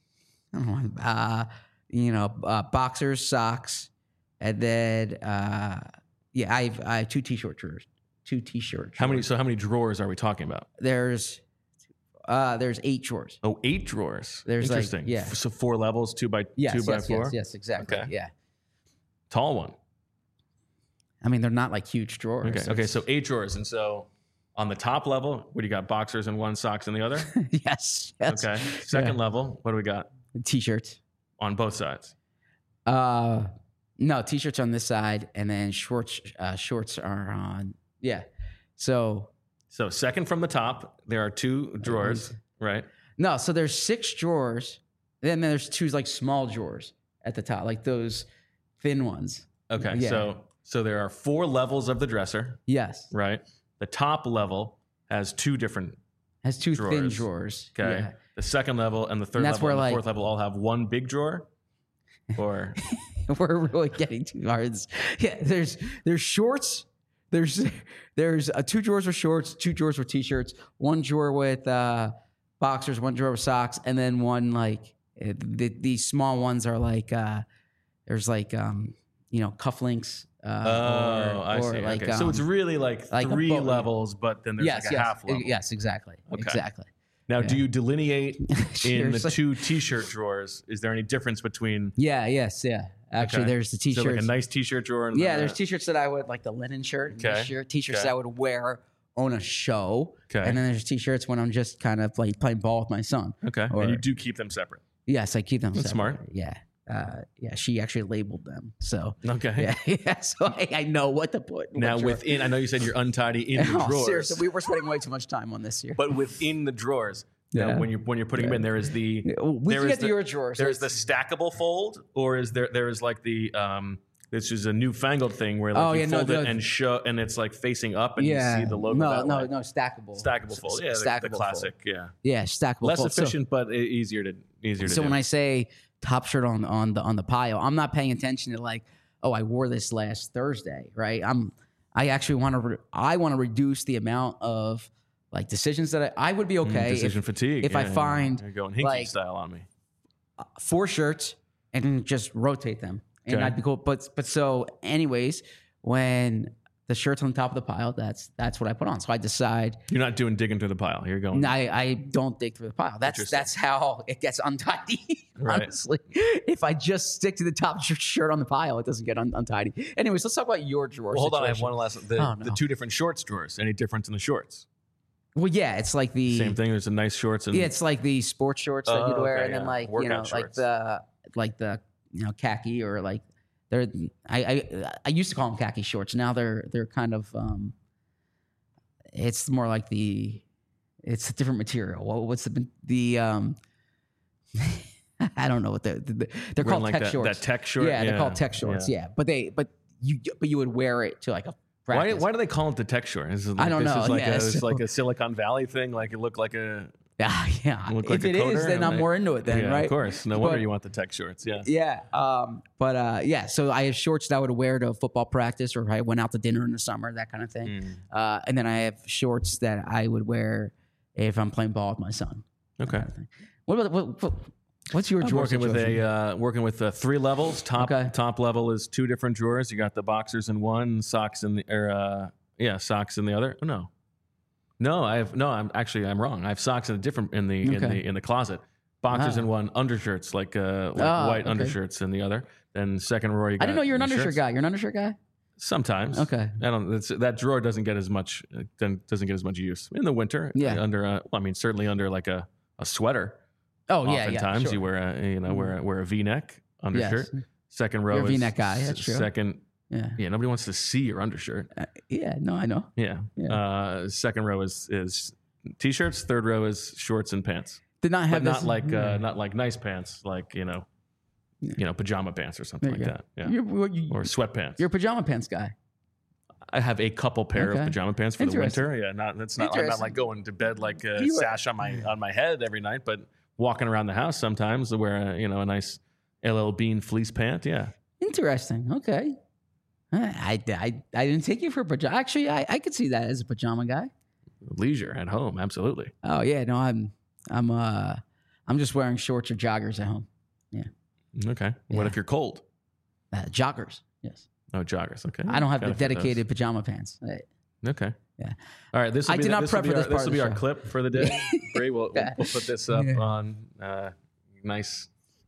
boxers, socks, and then I have 2 t-shirt drawers. 2 t-shirts. How many drawers are we talking about? There's 8 drawers. Oh, 8 drawers. There's interesting. So 4 levels, 2 by 2 by 4. Yes, exactly. Okay. Yeah. Tall one. I mean, they're not like huge drawers. Okay. So 8 drawers, and so on the top level, what do you got? Boxers in one, socks in the other. Yes. Okay. Second level, what do we got? T-shirts On both sides. No, t-shirts on this side, and then shorts are on. Yeah. So second from the top, there are 2 drawers, right? No, so there's 6 drawers. Then there's 2 like small drawers at the top, like those thin ones. Okay, Yeah. so there are 4 levels of the dresser, Yes. right? The top level has 2 different. Has 2 thin Drawers. drawers. Okay. Yeah. The second level and the third And that's level where, and the like- fourth level all have 1 big drawer, or We're really getting too hard. Yeah, there's shorts. There's 2 drawers with shorts, 2 drawers with t-shirts, 1 drawer with boxers, 1 drawer with socks, and then 1 like these small ones are like there's like cufflinks. I see. Like, okay. So it's really like like a 3 boat- levels, but then there's yes, like a yes, half level. yes, exactly, Okay. exactly. Now, do you delineate in the Seriously. 2 t-shirt drawers? Is there any difference between? Yeah, yes, yeah. Actually, Okay. there's the t-shirts. So like a nice t-shirt drawer. And Yeah, then there's t-shirts that I would like the linen shirt, and Okay. t-shirts Okay. that I would wear on a show, Okay. and then there's t-shirts when I'm just kind of like playing ball with my son. Okay, or- and you do keep them separate. Yes, I keep them. That's separate. smart. Yeah, yeah. She actually labeled them, so Okay. yeah. So I know what to put. Now what drawer. within, I know you said you're untidy in the Oh, drawers. seriously, we were spending way too much time on this here. But within the drawers, now, Yeah. when you're putting them in, there is the We there can is get to your drawer. So There's the it's- stackable fold, or is there is like the this is a newfangled thing where like Oh, you yeah, no, fold no. it and show, and it's like facing up, and yeah. you see the logo. No, that no, way. no, stackable. Stackable fold, yeah, Stackable the fold. classic, yeah. Yeah, stackable. Less fold. So- efficient, but easier to So do. when I say top shirt on the pile, I'm not paying attention to like, oh, I wore this last Thursday, right? I actually want to I want to reduce the amount of like decisions that I would be okay decision fatigue. if I yeah, find, you're going hinky like- style on me. 4 shirts and just rotate them, and Okay. I'd be cool. But so anyways, when the shirt's on the top of the pile, that's what I put on. So I decide. You're not doing digging through the pile. You're going. I don't dig through the pile. That's how it gets untidy. Right. Honestly, if I just stick to the top shirt on the pile, it doesn't get untidy. Anyways, let's talk about your drawer. Well, hold on, I have situation. one last. Oh, no. The 2 different shorts drawers. Any difference in the shorts? Well, yeah, it's like the Same thing. There's a nice shorts and Yeah, it's like the sports shorts that you'd Oh, wear, okay, and then yeah. like Workout shorts. like the khaki or like they're I used to call them khaki shorts. Now they're kind of it's more like it's a different material. What's the I don't know what they're wearing called like tech shorts. that tech short. Yeah, they're called tech shorts. Yeah, but you would wear it to like a practice. Why do they call it the tech short? Is it like, I don't this know. Is like Yeah, it's so- like a Silicon Valley thing. Like it looked like a Yeah, look if like a it is, coder, then I'm right? more into it. Then yeah, right? Of course. No wonder But- you want the tech shorts. Yeah. Yeah. But yeah, so I have shorts that I would wear to football practice or if I went out to dinner in the summer, that kind of thing. And then I have shorts that I would wear if I'm playing ball with my son. Okay. Kind of thing. What about what's your I'm drawer working with situation? working with 3 levels. Okay. Top level is 2 different drawers. You got the boxers in one, socks in the socks in the other. Oh, no, I'm wrong. I have socks in a different in the closet. Boxers in one, undershirts like white okay. undershirts in the other. Then second row you got I didn't know you're an the undershirt shirts. guy. You're an undershirt guy? Sometimes. Okay. That drawer doesn't get as much use in the winter. Yeah. Under certainly under like a sweater. Oh yeah, Oftentimes sure. you wear a wear a V-neck undershirt. Yes. Second row You're a is V-neck guy, that's true. Second, Yeah. nobody wants to see your undershirt. Yeah, no, I know. Yeah. Second row is t-shirts. Third row is shorts and pants. Did not have But this, not like nice pants, like pajama pants or something There like you that. Yeah. Or sweatpants. You're a pajama pants guy. I have a couple pair of Okay. pajama pants for the Interesting. winter. Yeah, I'm not like Interesting. going to bed like a You were- sash on my head every night, but walking around the house sometimes to wear a nice LL Bean fleece pant. Yeah. Interesting. Okay. I didn't take you for a pajama. Actually, I could see that as a pajama guy. Leisure at home, absolutely. Oh yeah, no, I'm just wearing shorts or joggers at home. Yeah. Okay. What Yeah. if you're cold? Joggers. Yes. Oh, joggers. Okay. I don't have the Gotta fit those. dedicated pajama pants. Okay. Yeah. All right. This will I be did the- not this will prep be for our, this part this will of be the our show. clip for the day. Bree, we'll put this up Yeah. on nice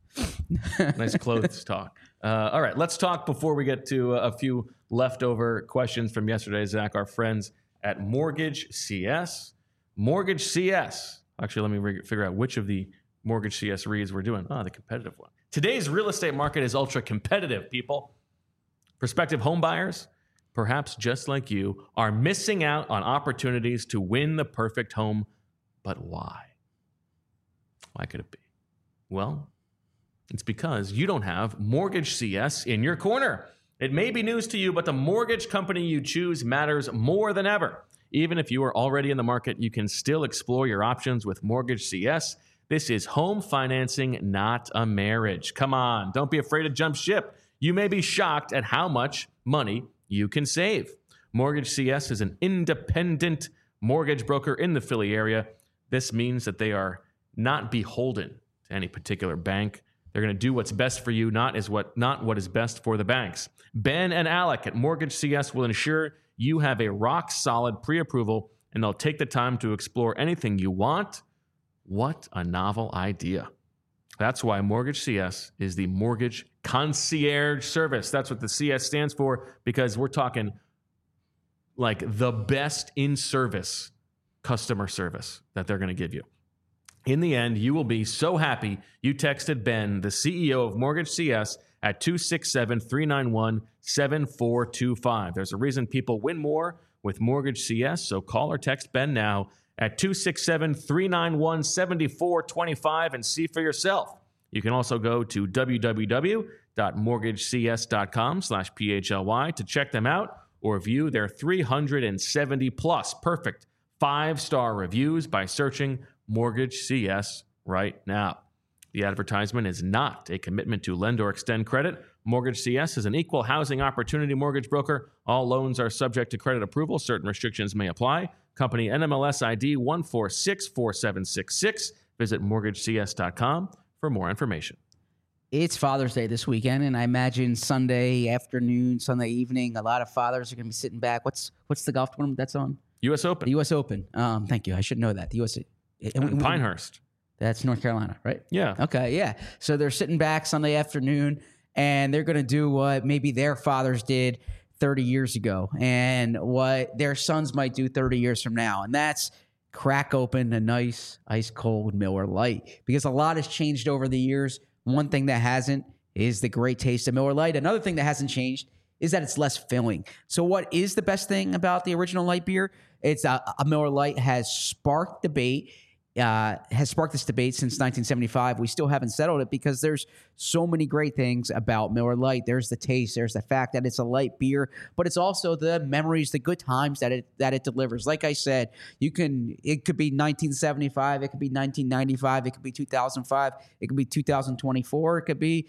clothes talk. All right. Let's talk before we get to a few leftover questions from yesterday, Zach. Our friends at Mortgage CS. Mortgage CS. Actually, let me figure out which of the Mortgage CS reads we're doing. Oh, the competitive one. Today's real estate market is ultra competitive, people. Prospective home buyers, perhaps just like you, are missing out on opportunities to win the perfect home. But why? Why could it be? Well, it's because you don't have Mortgage CS in your corner. It may be news to you, but the mortgage company you choose matters more than ever. Even if you are already in the market, you can still explore your options with Mortgage CS. This is home financing, not a marriage. Come on, don't be afraid to jump ship. You may be shocked at how much money you can save. Mortgage CS is an independent mortgage broker in the Philly area. This means that they are not beholden to any particular bank. They're going to do what's best for you, not what is best for the banks. Ben and Alec at Mortgage CS will ensure you have a rock-solid pre-approval, and they'll take the time to explore anything you want. What a novel idea. That's why Mortgage CS is the mortgage concierge service. That's what the CS stands for, because we're talking like the best in-service customer service that they're going to give you. In the end, you will be so happy you texted Ben, the CEO of Mortgage CS, at 267-391-7425. There's a reason people win more with Mortgage CS, so call or text Ben now at 267-391-7425 and see for yourself. You can also go to www.mortgagecs.com/PHLY to check them out or view their 370-plus perfect 5-star reviews by searching Mortgage CS right now. The advertisement is not a commitment to lend or extend credit. Mortgage CS is an equal housing opportunity mortgage broker. All loans are subject to credit approval. Certain restrictions may apply. Company NMLS ID 1464766. Visit mortgagecs.com for more information. It's Father's Day this weekend, and I imagine Sunday afternoon, Sunday evening, a lot of fathers are going to be sitting back. What's the golf tournament that's on? U.S. Open. The U.S. Open. Thank you. I should know that. The U.S. Pinehurst. That's North Carolina, right? Yeah. Okay, yeah. So they're sitting back Sunday afternoon, and they're going to do what maybe their fathers did 30 years ago and what their sons might do 30 years from now. And that's crack open a nice ice-cold Miller Lite, because a lot has changed over the years. One thing that hasn't is the great taste of Miller Lite. Another thing that hasn't changed is that it's less filling. So what is the best thing about the original light beer? It's a Miller Lite has sparked this debate since 1975. We still haven't settled it because there's so many great things about Miller Lite. There's the taste. There's the fact that it's a light beer, but it's also the memories, the good times that it delivers. Like I said, it could be 1975, it could be 1995, it could be 2005, it could be 2024, it could be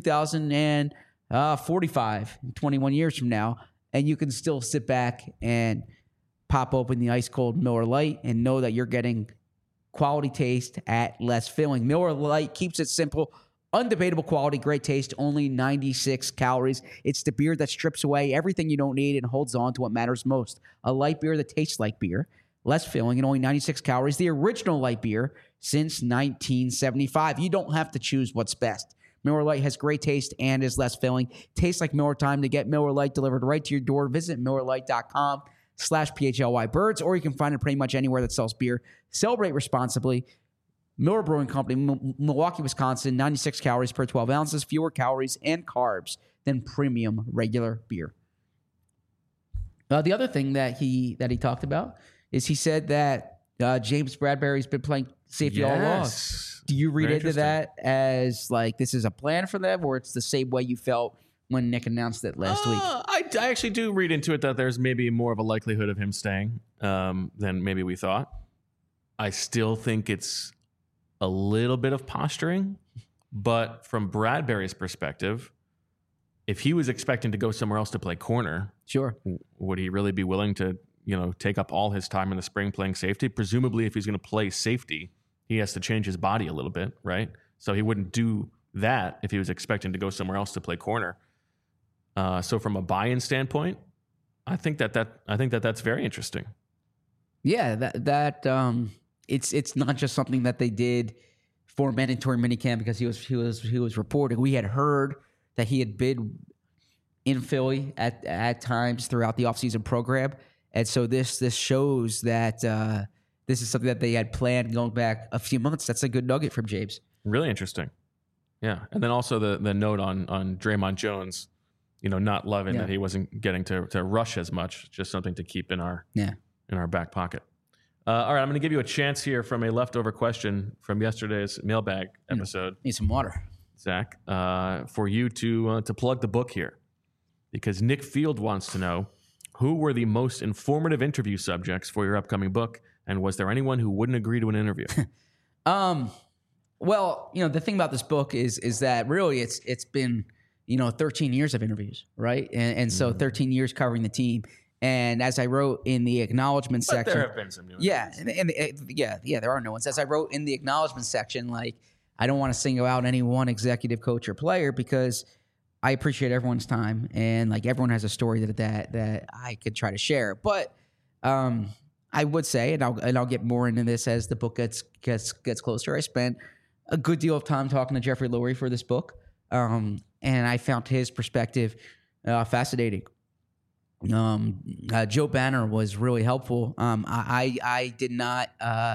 2045, 21 years from now, and you can still sit back and pop open the ice cold Miller Lite and know that you're getting quality taste at less filling. Miller Lite keeps it simple, undebatable quality, great taste, only 96 calories. It's the beer that strips away everything you don't need and holds on to what matters most. A light beer that tastes like beer, less filling, and only 96 calories. The original light beer since 1975. You don't have to choose what's best. Miller Lite has great taste and is less filling. Tastes like Miller time. To get Miller Lite delivered right to your door, visit MillerLite.com/PHLY-Birds, or you can find it pretty much anywhere that sells beer. Celebrate responsibly. Miller Brewing Company, Milwaukee, Wisconsin, 96 calories per 12 ounces, fewer calories and carbs than premium regular beer. The other thing that he talked about is he said that James Bradberry's been playing safety all along. Do you read into that as like this is a plan for them, or it's the same way you felt when Nick announced it last week? I actually do read into it that there's maybe more of a likelihood of him staying than maybe we thought. I still think it's a little bit of posturing, but from Bradberry's perspective, if he was expecting to go somewhere else to play corner, sure, would he really be willing to, take up all his time in the spring playing safety? Presumably, if he's going to play safety, he has to change his body a little bit, right? So he wouldn't do that if he was expecting to go somewhere else to play corner. So from a buy-in standpoint, I think that's very interesting. Yeah, it's not just something that they did for mandatory minicamp because he was reporting. We had heard that he had been in Philly at times throughout the offseason program, and so this shows that this is something that they had planned going back a few months. That's a good nugget from James. Really interesting. Yeah, and then also the note on Draymond Jones. not loving that he wasn't getting to rush as much. Just something to keep in our back pocket. All right, I'm going to give you a chance here from a leftover question from yesterday's mailbag episode. Need some water, Zach, for you to plug the book here, because Nick Field wants to know, who were the most informative interview subjects for your upcoming book, and was there anyone who wouldn't agree to an interview? Well, the thing about this book is that really it's been 13 years of interviews, right? And so 13 years covering the team. And as I wrote in the acknowledgement section, there have been some new ones. There are no ones. As I wrote in the acknowledgement section, like, I don't want to single out any one executive coach or player, because I appreciate everyone's time, and like everyone has a story that I could try to share. But I would say, and I'll get more into this as the book gets closer. I spent a good deal of time talking to Jeffrey Lurie for this book, and I found his perspective fascinating. Joe Banner was really helpful. I did not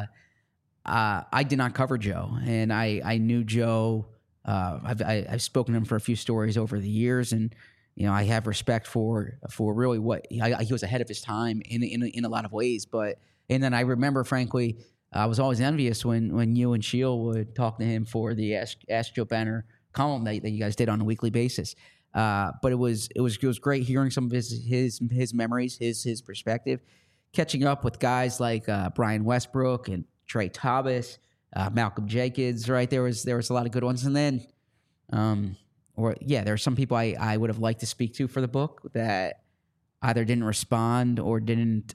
cover Joe, and I knew Joe. I've spoken to him for a few stories over the years, and I have respect for really what he was ahead of his time in a lot of ways. And then I remember, frankly, I was always envious when you and Sheil would talk to him for the Ask Joe Banner column that you guys did on a weekly basis. But it was great hearing some of his memories, his perspective, catching up with guys like Brian Westbrook and Trey Thomas, Malcolm Jenkins. Right, there was a lot of good ones, and then there are some people I would have liked to speak to for the book that either didn't respond or didn't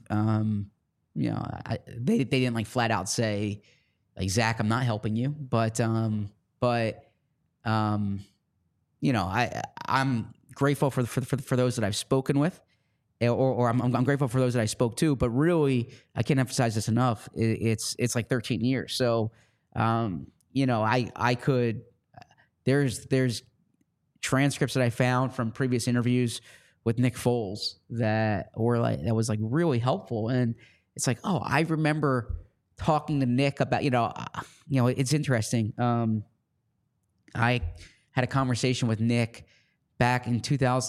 they didn't like flat out say, like, Zach, I'm not helping you, but I'm grateful for those that I've spoken with, or I'm grateful for those that I spoke to. But really, I can't emphasize this enough. It's like 13 years. So, I could. There's transcripts that I found from previous interviews with Nick Foles that was like really helpful, and it's like, oh, I remember talking to Nick about it's interesting. I had a conversation with Nick back in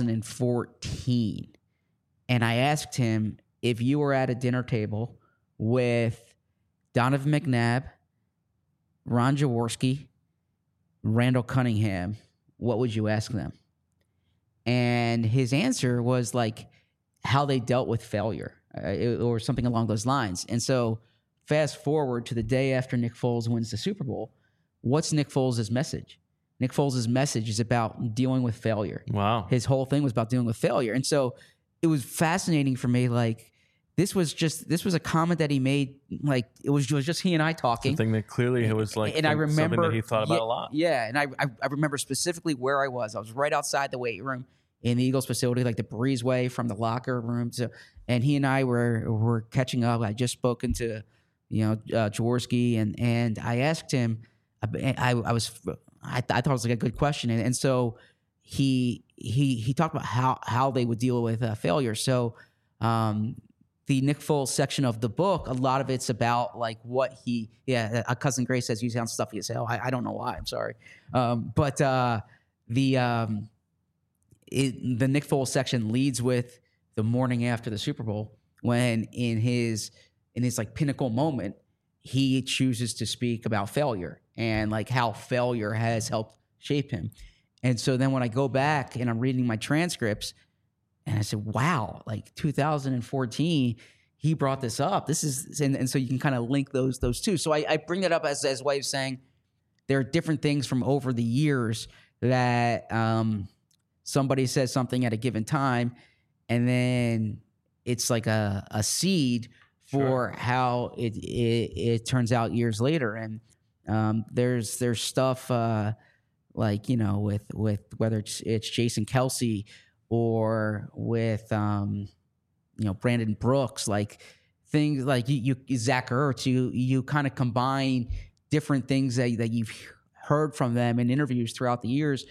2014, and I asked him, if you were at a dinner table with Donovan McNabb, Ron Jaworski, Randall Cunningham, what would you ask them? And his answer was like how they dealt with failure or something along those lines. And so fast forward to the day after Nick Foles wins the Super Bowl, what's Nick Foles' message? Nick Foles' message is about dealing with failure. Wow. His whole thing was about dealing with failure. And so it was fascinating for me. Like, this was a comment that he made. Like, it was just he and I talking. Something that clearly it was like, and I remember, something that he thought about a lot. Yeah. And I remember specifically where I was. I was right outside the weight room in the Eagles facility, like the breezeway from the locker room. And he and I were catching up. I just spoken to, Jaworski, and I asked him, I thought it was like a good question. And so he talked about how they would deal with failure. So the Nick Foles section of the book, a lot of it's about like what a cousin Grace says you sound stuffy as hell. I don't know why. I'm sorry. But the Nick Foles section leads with the morning after the Super Bowl, when in his like pinnacle moment, he chooses to speak about failure and like how failure has helped shape him. And so then when I go back and I'm reading my transcripts, and I said, wow, like 2014, he brought this up. This is, and so you can kind of link those two. So I bring that up as a way of saying there are different things from over the years that somebody says something at a given time, and then it's like a seed for how it turns out years later. And there's stuff like, with whether it's Jason Kelce or with Brandon Brooks, like things like you Zach Ertz, you kind of combine different things that you've heard from them in interviews throughout the years,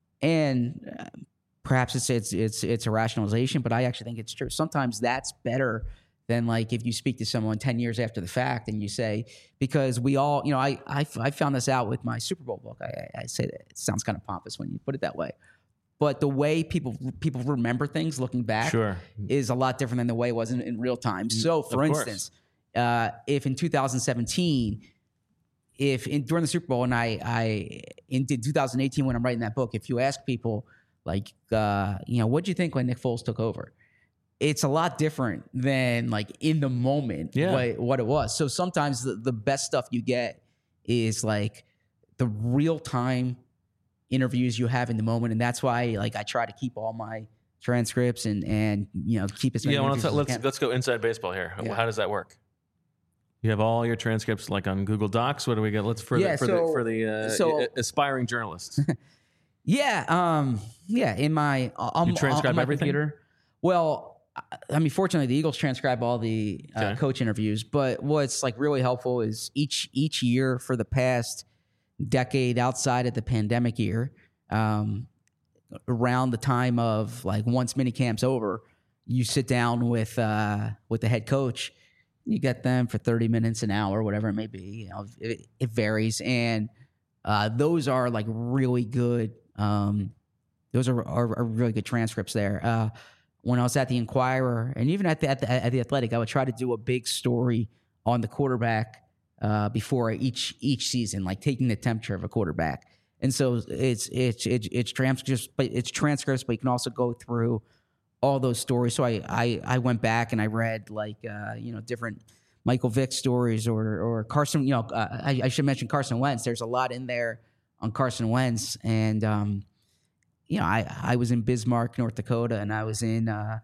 and perhaps it's a rationalization, but I actually think it's true. Sometimes that's better than like if you speak to someone 10 years after the fact and you say, because we all, I found this out with my Super Bowl book. I say that it sounds kind of pompous when you put it that way, but the way people remember things looking back is a lot different than the way it was in real time. So, for instance, if in 2017, during the Super Bowl, and in 2018 when I'm writing that book, if you ask people like, what'd you think when Nick Foles took over? It's a lot different than like in the moment what it was. So sometimes the best stuff you get is like the real time interviews you have in the moment, and that's why like I try to keep all my transcripts and keep as many. Let's go inside baseball here. Yeah. How does that work? You have all your transcripts like on Google Docs. What do we get? Let's for the aspiring journalists. In my you transcribe my everything? Computer. Well, I mean, fortunately, the Eagles transcribe all the coach interviews. But what's like really helpful is each year for the past decade, outside of the pandemic year, around the time of like once minicamp's over, you sit down with the head coach. You get them for 30 minutes, an hour, whatever it may be. It varies, and those are like really good. Those are really good transcripts there. When I was at the Inquirer and even at the Athletic, I would try to do a big story on the quarterback before each season, like taking the temperature of a quarterback. And so it's transcripts, but you can also go through all those stories. So I went back and I read like different Michael Vick stories or Carson. I should mention Carson Wentz. There's a lot in there on Carson Wentz, and I was in Bismarck, North Dakota, and I was in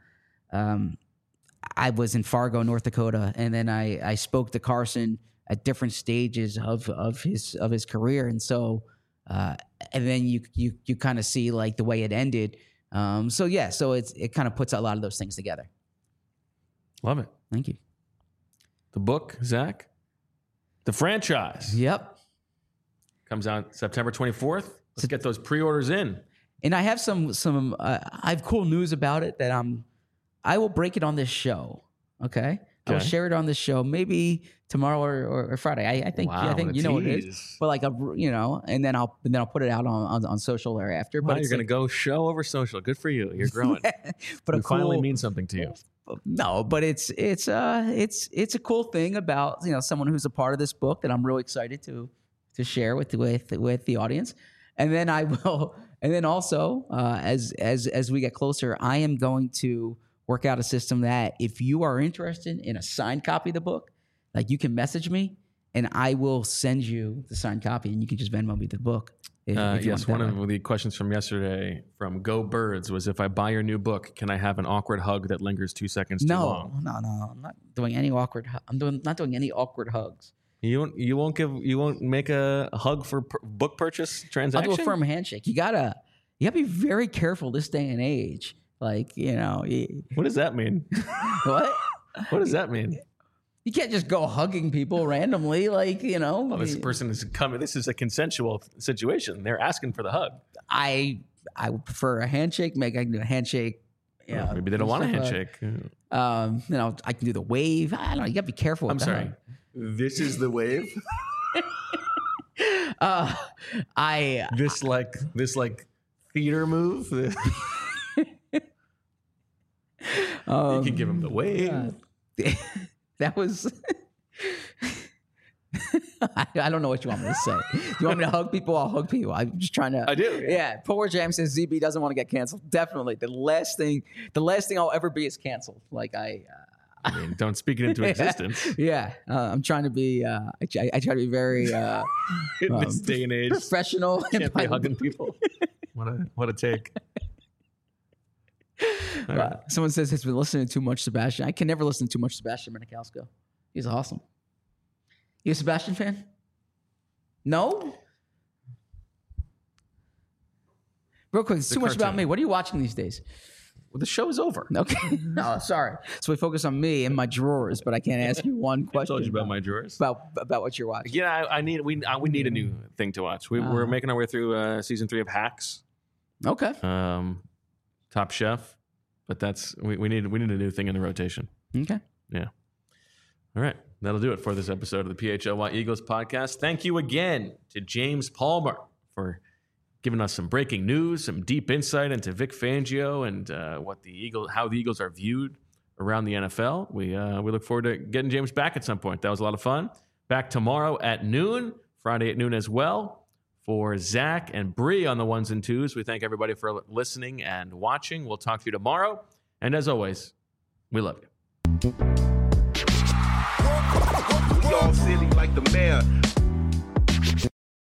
Fargo, North Dakota, and then I spoke to Carson at different stages of his career, and so and then you kind of see like the way it ended. So it kind of puts a lot of those things together. Love it. Thank you. The book, Zach, The Franchise. Yep. Comes out September 24th. Let's get those pre-orders in. And I have some I have cool news about it that I will break it on this show. Okay. I will share it on this show, maybe tomorrow or Friday. I think you know what it is. But like and then I'll put it out on social thereafter. Wow, but you're gonna go show over social. Good for you. You're growing. But it finally means something to you. No, but it's a cool thing about someone who's a part of this book that I'm really excited to share with the audience. And then I will, and then also as we get closer, I am going to work out a system that if you are interested in a signed copy of the book, like you can message me and I will send you the signed copy and you can just Venmo me the book. Yes, one of the questions from yesterday from Go Birds was, if I buy your new book, can I have an awkward hug that lingers 2 seconds too long? No. I'm not doing any awkward. Not doing any awkward hugs. You won't make a hug for book purchase transaction? I'll do a firm handshake. You gotta be very careful this day and age. Like, what does that mean? What? What does that mean? You can't just go hugging people randomly, like, Well, this person is coming. This is a consensual situation. They're asking for the hug. I would prefer a handshake. I can do a handshake. Maybe they don't want a handshake. I can do the wave. I don't know. You got to be careful with that. I'm sorry. This is the wave? This theater move? You can give him the wave. That was... I don't know what you want me to say. You want me to hug people? I'll hug people. I'm just trying to... I do. Yeah. Poor Jam says ZB doesn't want to get canceled. Definitely. The last thing I'll ever be is canceled. Like I mean, don't speak it into existence. Yeah. I'm trying to be... I try to be very... in this day and age. Professional. Can't be hugging people. What a take. Right. Someone says he's been listening to too much Sebastian. I can never listen to too much Sebastian Maniscalco. He's awesome. You a Sebastian fan? No? Real quick, it's too much about me. What are you watching these days? Well, the show is over. Okay. No, sorry. So we focus on me and my drawers, but I can't ask you one question. I told you about my drawers. About what you're watching. Yeah, we need a new thing to watch. We're making our way through season 3 of Hacks. Okay. Top Chef, but we need a new thing in the rotation. Okay. Yeah. All right. That'll do it for this episode of the PHLY Eagles podcast. Thank you again to James Palmer for giving us some breaking news, some deep insight into Vic Fangio and how the Eagles are viewed around the NFL. We look forward to getting James back at some point. That was a lot of fun. Back tomorrow at noon, Friday at noon as well. For Zach and Bree on the ones and twos, we thank everybody for listening and watching. We'll talk to you tomorrow. And as always, we love you. We all silly like the mayor.